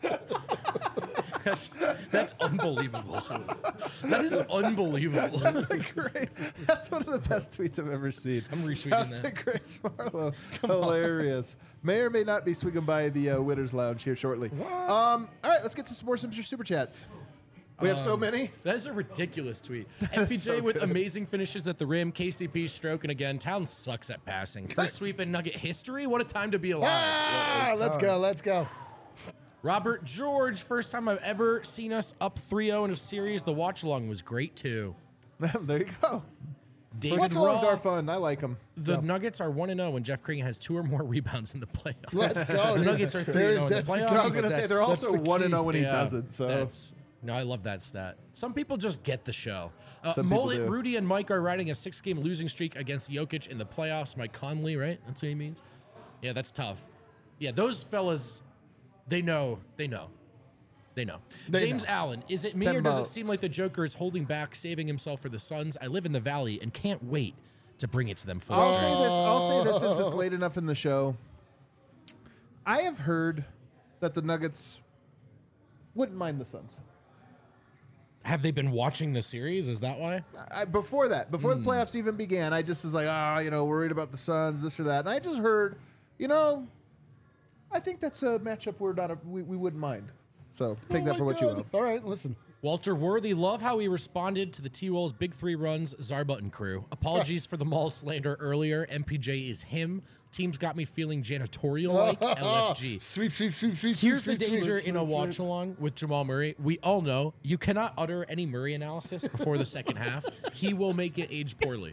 That's, that's unbelievable. That is unbelievable. That's a great. That's one of the best tweets I've ever seen. I'm retweeting Shouts that. to Grace Marlowe. Hilarious. May or may not be swinging by the uh, Winners Lounge here shortly. Um, all right, let's get to some more Simpster Super Chats. We have so many. That is a ridiculous tweet. M P J so with good. amazing finishes at the rim. K C P stroking again. Town sucks at passing. First sweep in Nugget history. What a time to be alive. Ah, let's go, let's go. Robert George, first time I've ever seen us up three oh in a series. The watch along was great too. There you go. David Watch alongs Roth. are fun. I like them. The Yeah. Nuggets are one and zero when Jeff Green has two or more rebounds in the playoffs. Let's go. The dude. Nuggets are three There's- and zero in the that's the playoffs. key. I was gonna say That's- they're that's also the one and key. zero when he Yeah, doesn't. So that's- no, I love that stat. Some people just get the show. Uh, Some people Mullet, do. Rudy, and Mike are riding a six-game losing streak against Jokic in the playoffs. Mike Conley, right? That's what he means. Yeah, that's tough. Yeah, those fellas, they know. They know. They know. They James know. Allen, is it me Ten or does it votes. seem like the Joker is holding back, saving himself for the Suns? I live in the Valley and can't wait to bring it to them full I'll strength. say this. I'll say this since it's late enough in the show. I have heard that the Nuggets wouldn't mind the Suns. Have they been watching the series? Is that why? I, before that, before Hmm. the playoffs even began, I just was like, ah, you know, worried about the Suns, this or that, and I just heard, you know, I think that's a matchup we're not a, we, we wouldn't mind. So take Oh that my for what you God. will. All right, listen. Walter Worthy, love how he responded to the T-Wolves' big three runs, Zarbutton crew. Apologies for the mall slander earlier. M P J is him. Teams got me feeling janitorial-like. L F G. Sweep, sweep, sweep, sweep. Here's the sweep, sweep, danger sweep, in a sweep, watch sweep. along with Jamal Murray. We all know you cannot utter any Murray analysis before the second half. He will make it age poorly.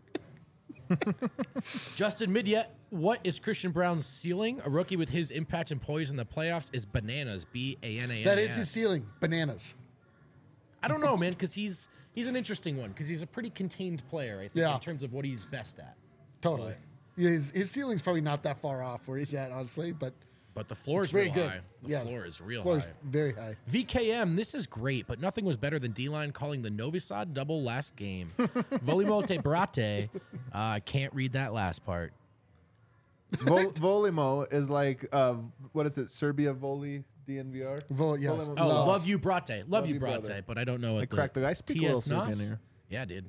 Justin Midyet, what is Christian Brown's ceiling? A rookie with his impact and poise in the playoffs is bananas. B A N A N A S. That is his ceiling. Bananas. I don't know, man, because he's he's an interesting one because he's a pretty contained player, I think, Yeah. in terms of what he's best at. Totally. Yeah, his, his ceiling's probably not that far off where he's at, honestly, but But the floor it's is very real good. high. The yeah, floor is real floor is high. very high. V K M, this is great, but nothing was better than D-Line calling the Novi Sad double last game. Volimo te brate. Uh, I can't read that last part. Vol- Volimo is like, uh, what is it, Serbia Voli D N V R? Vol- yes. Volimo- Oh, Love. love you brate. Love, Love you you, brate, brother. but I don't know what I the cracked the- I speak a T S little Nas? Serbian here. Yeah, dude.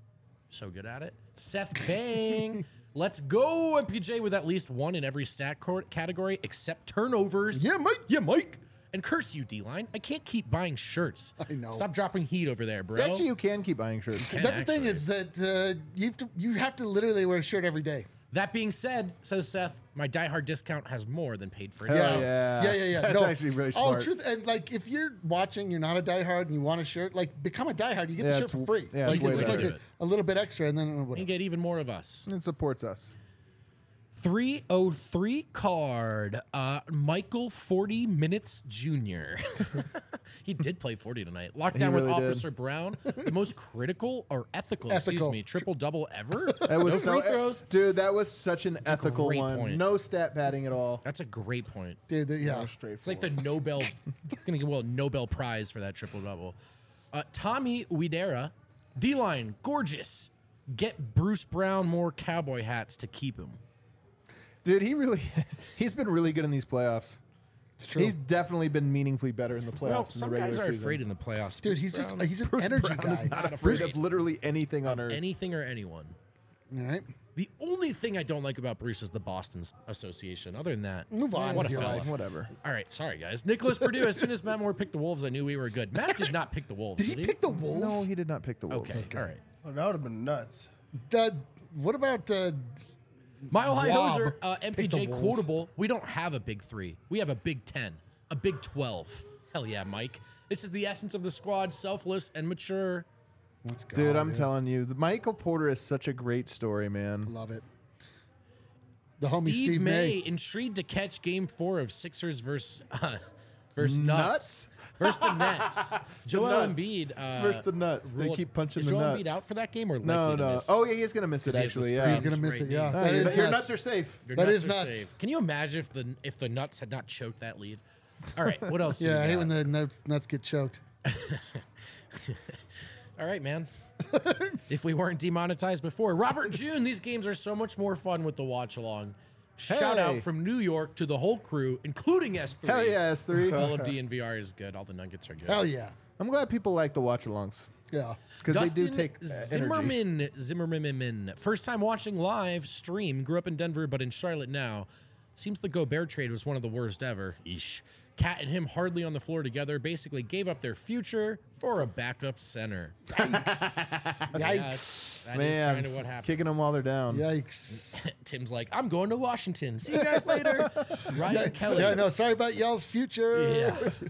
So good at it. Seth Bang. Let's go, M P J, with at least one in every stat court category except turnovers. Yeah, Mike. Yeah, Mike. And curse you, D-Line. I can't keep buying shirts. I know. Stop dropping heat over there, bro. Actually, you can keep buying shirts. Can That's the thing actually. is that uh, you have to you have to literally wear a shirt every day. That being said, says Seth, my diehard discount has more than paid for Hell itself. yeah. yeah, yeah, yeah. That's no, actually really Oh, smart. truth. And like, if you're watching, you're not a diehard, and you want a shirt, like, become a diehard. You get Yeah, the shirt it's for w- free. yeah, like, it's it's way just like better. a, a little bit extra, and then uh, You whatever. get even more of us. It supports us. three oh three card, uh, Michael forty Minutes Junior He did play forty tonight. Locked down with really did. Officer Brown. The most critical or ethical, excuse Ethical. me, triple double ever. That was no so, free throws. dude. That was such an a ethical great one. point. No stat padding at all. That's a great point. Dude, the- yeah. It's like the Nobel, gonna get well Nobel Prize for that triple double. Uh, Tommy Uidera, D-line, gorgeous. Get Bruce Brown more cowboy hats to keep him. Dude, he really, he's been really good in these playoffs. It's true. He's definitely been meaningfully better in the playoffs. Well, than some the regular guys are season. afraid in the playoffs. Dude, Bruce he's just Brown, he's an Bruce energy Brown is guy. not Not afraid afraid of literally anything on earth. anything or anyone. All right. The only thing I don't like about Bruce is the Boston Association. Other than that, Move on What with a your fella. life. Whatever. All right, sorry guys. Nicholas Purdue. As soon as Matt Moore picked the Wolves, I knew we were good. Matt did not pick the Wolves. Did he pick the Wolves? No, he did not pick the Wolves. Okay, all right. Oh, that would have been nuts. Uh, what about uh, Mile High Rob Hoser, uh, M P picked the J Wolves. quotable. We don't have a big three. We have a big ten, a big twelve. Hell yeah, Mike. This is the essence of the squad, selfless and mature. let's go, Dude, I'm telling you, the Michael Porter is such a great story, man. Love it. The homie Steve, Steve, May, May. intrigued to catch game four of Sixers versus, uh, versus Nuts? Nuts. Versus the Nets. Joel Nuts. Embiid. Uh, Versus the Nuts. They ruled- keep punching is the Joel nuts. Embiid out for that game or No, likely to no. miss? Oh, yeah, he's gonna miss it. Because he has the Actually, sprain. yeah. He's gonna miss it. Great Yeah, knee. No, that your, is your nuts. nuts are safe. Your That nuts is are nuts. safe. Can you imagine if the if the Nuts had not choked that lead? All right, what else? do Yeah, you I hate got? when the nuts, nuts get choked. All right, man. If we weren't demonetized before. Robert June, these games are so much more fun with the watch along. Shout out Hey. from New York to the whole crew, including S three. Hell yeah, S three. All of D N V R is good. All the Nuggets are good. Hell yeah. I'm glad people like the watch-alongs Yeah. because they Dustin do take uh, energy. Zimmerman. Zimmerman. First time watching live stream. Grew up in Denver, but in Charlotte now. Seems the Gobert trade was one of the worst ever. Eesh. Cat and him hardly on the floor together. Basically gave up their future for a backup center. Yikes. Yeah, that's- that is Man, kind of what happened. kicking them while they're down. Yikes. Tim's like, I'm going to Washington. See you guys later. Ryan Kelly. Yeah, no, sorry about y'all's future. Yeah.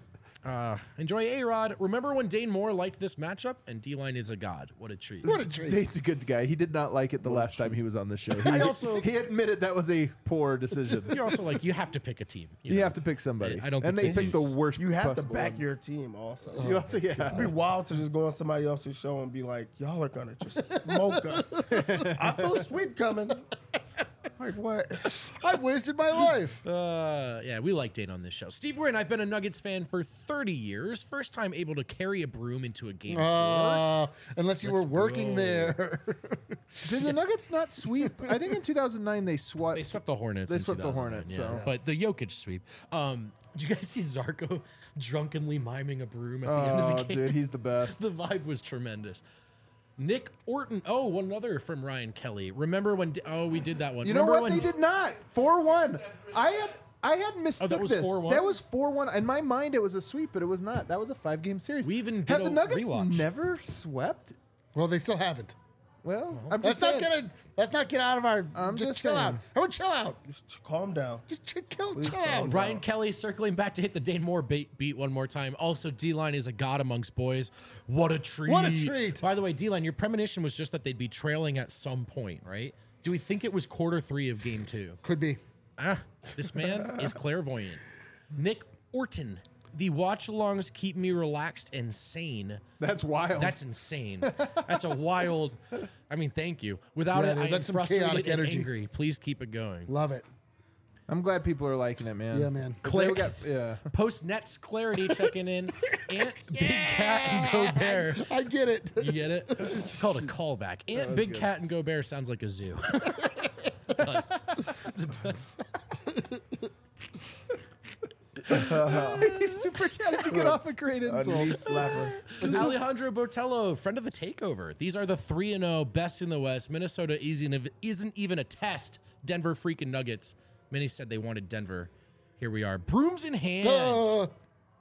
Uh, enjoy A-Rod. Remember when Dane Moore liked this matchup? And D-Line is a god. What a treat. What a treat. Dane's a good guy. He did not like it the last time he was on the show. He, I also- he admitted that was a poor decision. You're also like, you have to pick a team. You know? have to pick somebody. I don't and think they they picked the lose. worst. You have to possible back one. your team also. You also, yeah. It'd be wild to just go on somebody else's show and be like, y'all are gonna just smoke us. I feel a sweep coming. Like what? I've wasted my life. Uh, yeah, we like Dane on this show. Steve Wynn, I've been a Nuggets fan for thirty years. First time able to carry a broom into a game four. Uh, unless you Let's were working go. there. Did the Nuggets not sweep? I think in two thousand nine they swept. They swept the Hornets. They in swept the two thousand nine, Hornets, yeah. so- But the Jokic sweep. Um, did you guys see Zarko drunkenly miming a broom at the end Oh, of the game? dude, he's the best. The vibe was tremendous. Nick Orton. Oh, one other from Ryan Kelly. Remember when? Oh, we did that one. You know Remember what? when They did not. four one. I had I had mistook Oh, that was this. four one? That was four one. In my mind, it was a sweep, but it was not. That was a five-game series. We even did Have a the Nuggets rewatch. never swept? Well, they still haven't. Well, I'm Let's just not saying. get a, Let's not get out of our. I'm just, just chill out. saying. Everyone, chill out. Just calm down. Just chill, chill, Please chill calm out. down. Ryan Kelly circling back to hit the Dane Moore beat, beat one more time. Also, D-Line is a god amongst boys. What a treat. What a treat. By the way, D-Line, your premonition was just that they'd be trailing at some point, right? Do we think it was quarter three of game two? Could be. Ah, this man is clairvoyant. Nick Orton. The watch-alongs keep me relaxed and sane. That's wild. That's insane. That's a wild... I mean, thank you. Without Yeah, it, dude, I am that's some frustrated chaotic and energy. angry. Please keep it going. Love it. I'm glad people are liking it, man. Yeah, man. If Claire- they got- yeah. Post Nets clarity checking in. Ant, Big Cat, and Gobert. I get it. You get it? It's called a callback. Ant, Big Cat, and Gobert sounds like a zoo. It does. It does. Super chatted to get off a great A insult. knee slapper. Alejandro Botello, friend of the takeover. These are the three and oh best in the West. Minnesota isn't, isn't even a test. Denver freaking Nuggets. Many said they wanted Denver. Here we are. Brooms in hand. Uh,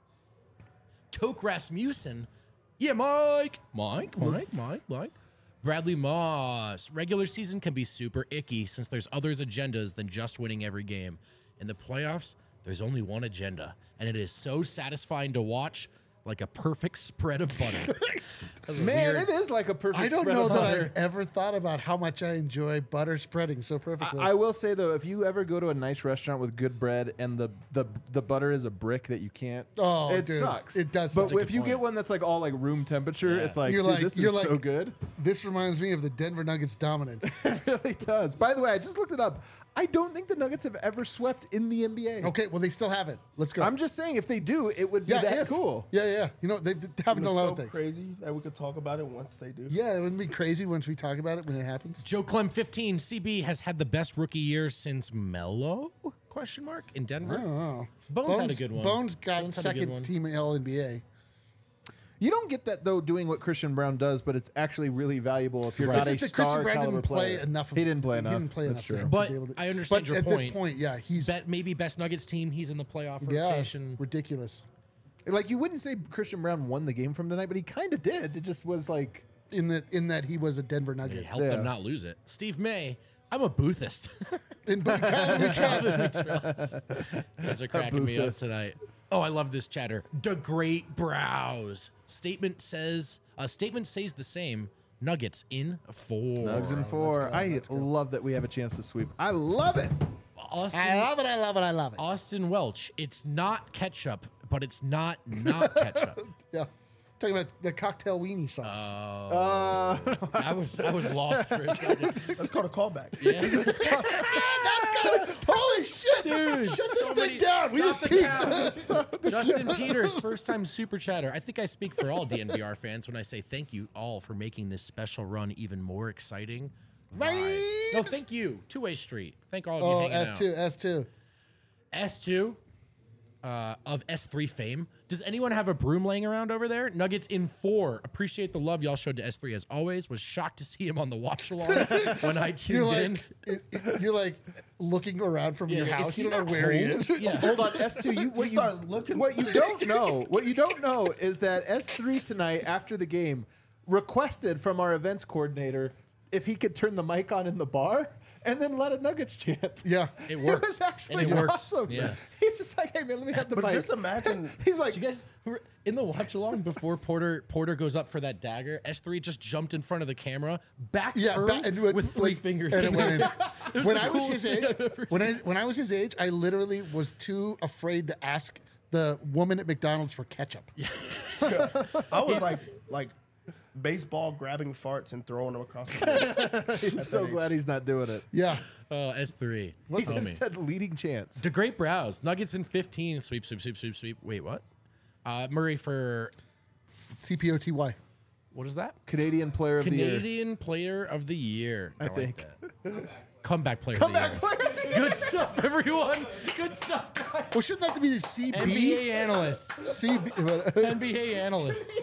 Toke Rasmussen. Yeah, Mike. Mike, Mike, Mike, Mike. Bradley Moss. Regular season can be super icky since there's others agendas than just winning every game. In the playoffs, there's only one agenda, and it is so satisfying to watch, like a perfect spread of butter. That was a Man, weird- it is like a perfect I don't spread know of that butter. I've ever thought about how much I enjoy butter spreading so perfectly. I will say though, if you ever go to a nice restaurant with good bread and the the, the butter is a brick that you can't, Oh, it dude, sucks. it does But suck. if you That's a good get point. one that's like all like room temperature, Yeah. it's like, You're dude, like- this you're is like- so good. This reminds me of the Denver Nuggets dominance. It really does. By the way, I just looked it up. I don't think the Nuggets have ever swept in the N B A. Okay, well they still haven't. Let's go. I'm just saying, if they do, it would be yeah, that if. cool. Yeah, yeah. You know they haven't It's done a lot so of things. crazy that we could talk about it once they do. Yeah, it wouldn't be crazy once we talk about it when it happens. Joe Clem fifteen. C B has had the best rookie year since Melo? Question mark in I Denver. don't know. Bones had a good one. Bones got Bones had a good second one. team All N B A. You don't get that though doing what Christian Brown does, but it's actually really valuable if you're Right. not It's a just that star Christian Brown caliber didn't play player. enough. Of, He didn't play enough. He didn't play That's enough. true. To, But to be able to, I understand but your at point. this point, yeah, he's Bet maybe best Nuggets team. He's in the playoff yeah, rotation. ridiculous. Like you wouldn't say Christian Brown won the game from tonight, but he kind of did. It just was like, In that, in that he was a Denver It Nugget. helped Yeah. them not lose it. Steve May. I'm a Boothist. In Calvin Trust. You guys are cracking me up Boothist. tonight. Oh, I love this chatter. The Great Brows. Statement says, uh, statement says the same. Nuggets in four. Nugs and four. I love that we have a chance to sweep. I love it. Austin, I love it. I love it. I love it. Austin Welch. It's not ketchup, but it's not not ketchup. Yeah, talking about the cocktail weenie sauce. Uh, I was I was lost for a second. That's called a callback. Yeah. Holy shit, Dude, Shut this so thing many- down. We stop just the peaked. Justin Peters, first time super chatter. I think I speak for all D N V R fans when I say thank you all for making this special run even more exciting. Vibes. No, thank you. Two Way Street. Thank all of you Oh, hanging S two, out. S two. S two uh, of S three fame. Does anyone have a broom laying around over there? Nuggets in four. Appreciate the love y'all showed to S three as always. Was shocked to see him on the watch along when I tuned You're in. like, it- it- you're like looking around from your Yeah, is house. he You don't know not where he home? is. Yeah. hold on, S two. You what you, start looking- What you don't know, what you don't know is that S three tonight after the game requested from our events coordinator if he could turn the mic on in the bar and then let a Nuggets chant. Yeah. It worked. It was actually And it worked. awesome. Yeah. He's He's just like, hey man, let me have the But bite. just imagine. He's like, Do you guys were in the watch along before Porter Porter goes up for that dagger? S three just jumped in front of the camera, back Yeah, turned ba- and went- with three like- fingers. and it went in. It was when the I was coolest his thing age, I've ever when I seen. when I was his age, I literally was too afraid to ask the woman at McDonald's for ketchup. I was like, like baseball grabbing farts and throwing them across the board. I'm so glad he's not doing it. Yeah. Oh, S three. He's Homie. instead leading chance. To great browse. Nuggets in fifteen. Sweep, sweep, sweep, sweep, sweep. Wait, what? Uh, Murray for C P O T Y. what is that? Canadian player of the year. Canadian Player of the Year. I like think. that. Comeback Player Comeback of the Year. player of the year. Good stuff, everyone. Good stuff, guys. Well, shouldn't that be the C B? N B A analysts. C B N B A analysts.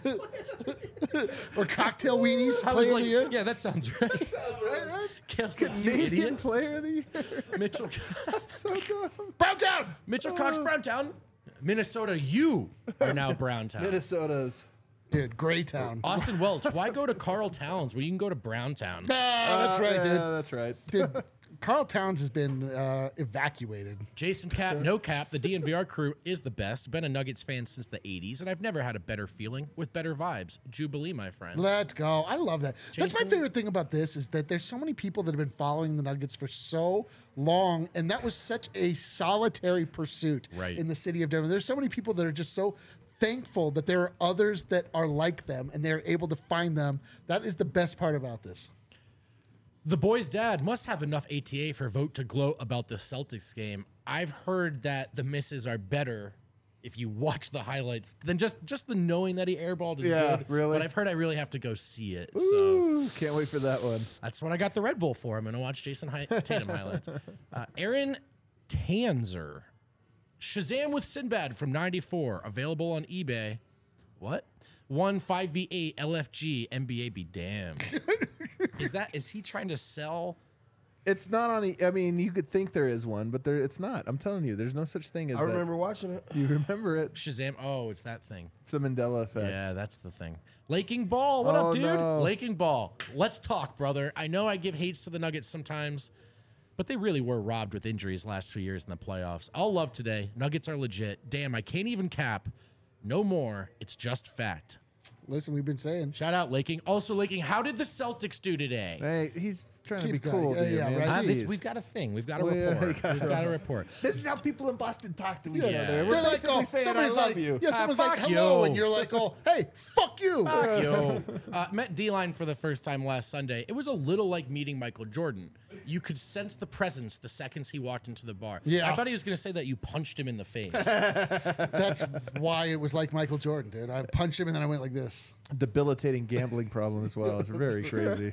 or cocktail weenies I was player of like, the year? yeah, that sounds right. Right, right? Kale's like, you Canadian idiots. player of the year. Mitchell, So dumb. Browntown. Mitchell Cox, Browntown. Minnesota, you are now Browntown. Minnesota's. Dude, Greytown. Austin Welch, why go to Carl Towns when you can go to Browntown? Ah, that's right, Yeah, dude. that's right. Dude, Carl Towns has been uh, evacuated. Jason Cap, no cap. The D N V R crew is the best. Been a Nuggets fan since the eighties, and I've never had a better feeling with better vibes. Jubilee, my friends. Let's go. I love that. That's my Jason- favorite thing about this is that there's so many people that have been following the Nuggets for so long, and that was such a solitary pursuit Right. in the city of Denver. There's so many people that are just so thankful that there are others that are like them, and they're able to find them. That is the best part about this. The boy's dad must have enough A T A for Vote to gloat about the Celtics game. I've heard that the misses are better if you watch the highlights than just just the knowing that he airballed is Yeah, good. really? But I've heard I really have to go see it. So Ooh, can't wait for that one. that's what I got the Red Bull for. I'm going to watch Jason Hi- Tatum highlights. Uh, Aaron Tanzer. Shazam with Sinbad from ninety-four. Available on eBay. What? One five v eight L F G N B A be damned. Is that is he trying to sell? It's not on. E- I mean, you could think there is one, but there it's not. I'm telling you, there's no such thing as. I that. remember watching it. You remember it? Shazam. Oh, it's that thing. It's the Mandela effect. Yeah, that's the thing. Laking Ball. What Oh, up, dude? no. Laking Ball. Let's talk, brother. I know I give hates to the Nuggets sometimes, but they really were robbed with injuries last two years in the playoffs. All love today. Nuggets are legit. Damn, I can't even cap. No more. It's just fact. Listen, we've been saying. Shout out Laking. Also, Laking, how did the Celtics do today? Hey, he's trying Keep to be going. cool, Yeah, dude, yeah, man. right. Ah, this, Jeez. we've got a thing. We've got a Well, yeah, report. we got We've got a report. This is how people in Boston talk to each Yeah. other. They're We're They're like, basically oh, saying, "I somebody's love like, you." yeah, Ah, someone's like, fuck hello, you. and you're like, oh, hey, fuck you. Yo, uh, met D-Line for the first time last Sunday. It was a little like meeting Michael Jordan. You could sense the presence the seconds he walked into the bar. Yeah. I thought he was going to say that you punched him in the face. That's why it was like Michael Jordan, dude. I punched him and then I went like this. Debilitating gambling problem as well. It's very crazy.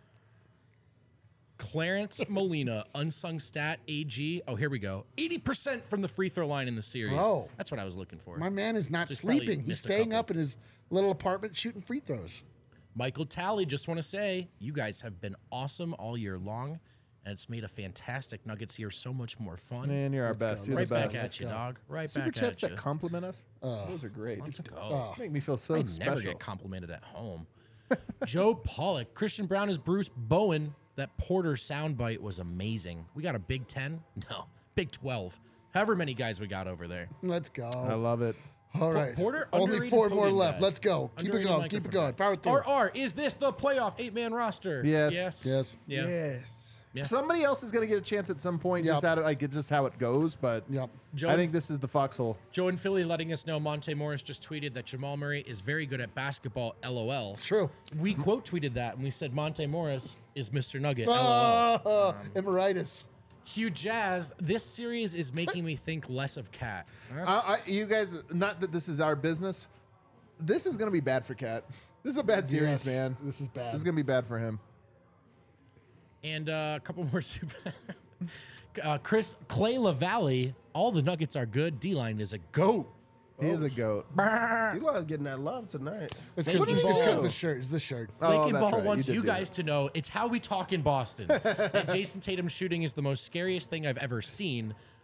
Clarence Molina, unsung stat, A G. Oh, here we go. eighty percent from the free throw line in the series. Bro. That's what I was looking for. My man is not So he's probably sleeping. He's missed a staying couple. up in his little apartment shooting free throws. Michael Talley, just want to say, you guys have been awesome all year long, and it's made a fantastic Nuggets year so much more fun. Man, you're our best. You're right the back best. at you, dog. Right Super back chats at you. that compliment us. Those are great. Let's go. Oh. Make me feel so I never special. get complimented at home. Joe Pollock, Christian Brown is Bruce Bowen. That Porter soundbite was amazing. We got a Big Ten? No, Big twelve. However many guys we got over there. Let's go. I love it. All right. Porter, Only underrated four more podium left. guy. Let's go. Keep it Underrated going. Keep it microphone going. guy. Power through. R R, is this the playoff eight-man roster? Yes. Yes. Yes. Yeah. Yes. Yeah. Somebody else is going to get a chance at some point. Yep. Just out of, like it's just how it goes. But Yep. Joe- I think this is the foxhole. Joe in Philly letting us know Monte Morris just tweeted that Jamal Murray is very good at basketball, LOL. It's true. We quote tweeted that and we said Monte Morris is Mister Nugget, LOL. Oh, emeritus. Hugh Jazz, this series is making me think less of Cat. I, I, you guys, not that this is our business. This is going to be bad for Cat. This is a bad series, Yes, man. this is bad. This is going to be bad for him. And uh, a couple more super. uh, Chris Clay LaValle, all the Nuggets are good. D-Line is a goat. He is a goat. You love getting that love tonight. It's What because did you do? the shirt. It's the shirt. Oh, Lakin that's Ball right. wants You you, did do guys to know it's how we talk in Boston. That Jason Tatum's shooting is the most scariest thing I've ever seen.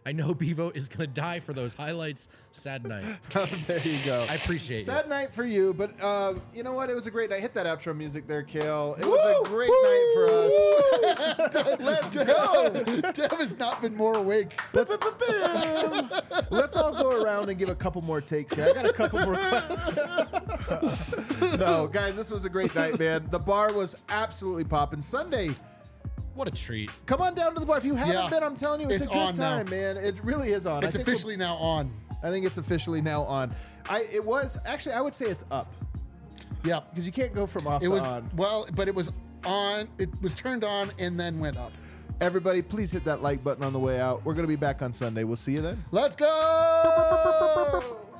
I know Bevo is going to die for those highlights. Sad night. There you go. I appreciate Sad it. night for you, but uh, you know what? It was a great night. Hit that outro music there, Kale. It was a great night for us. Let's go. Dev has not been more awake. Let's, let's all go around and give a couple more takes here. I got a couple more questions. No, guys, this was a great night, man. The bar was absolutely popping. Sunday, What a treat. come on down to the bar. If you haven't Yeah. been, I'm telling you, it's, It's a good on now. time, man. It really is on. It's I think we'll- officially now on. I think it's officially now on. I It was, actually, I would say it's up. Yeah. Because you can't go from off It to was, on. well, but it was on, it was turned on and then went up. Everybody, please hit that like button on the way out. We're going to be back on Sunday. We'll see you then. Let's go.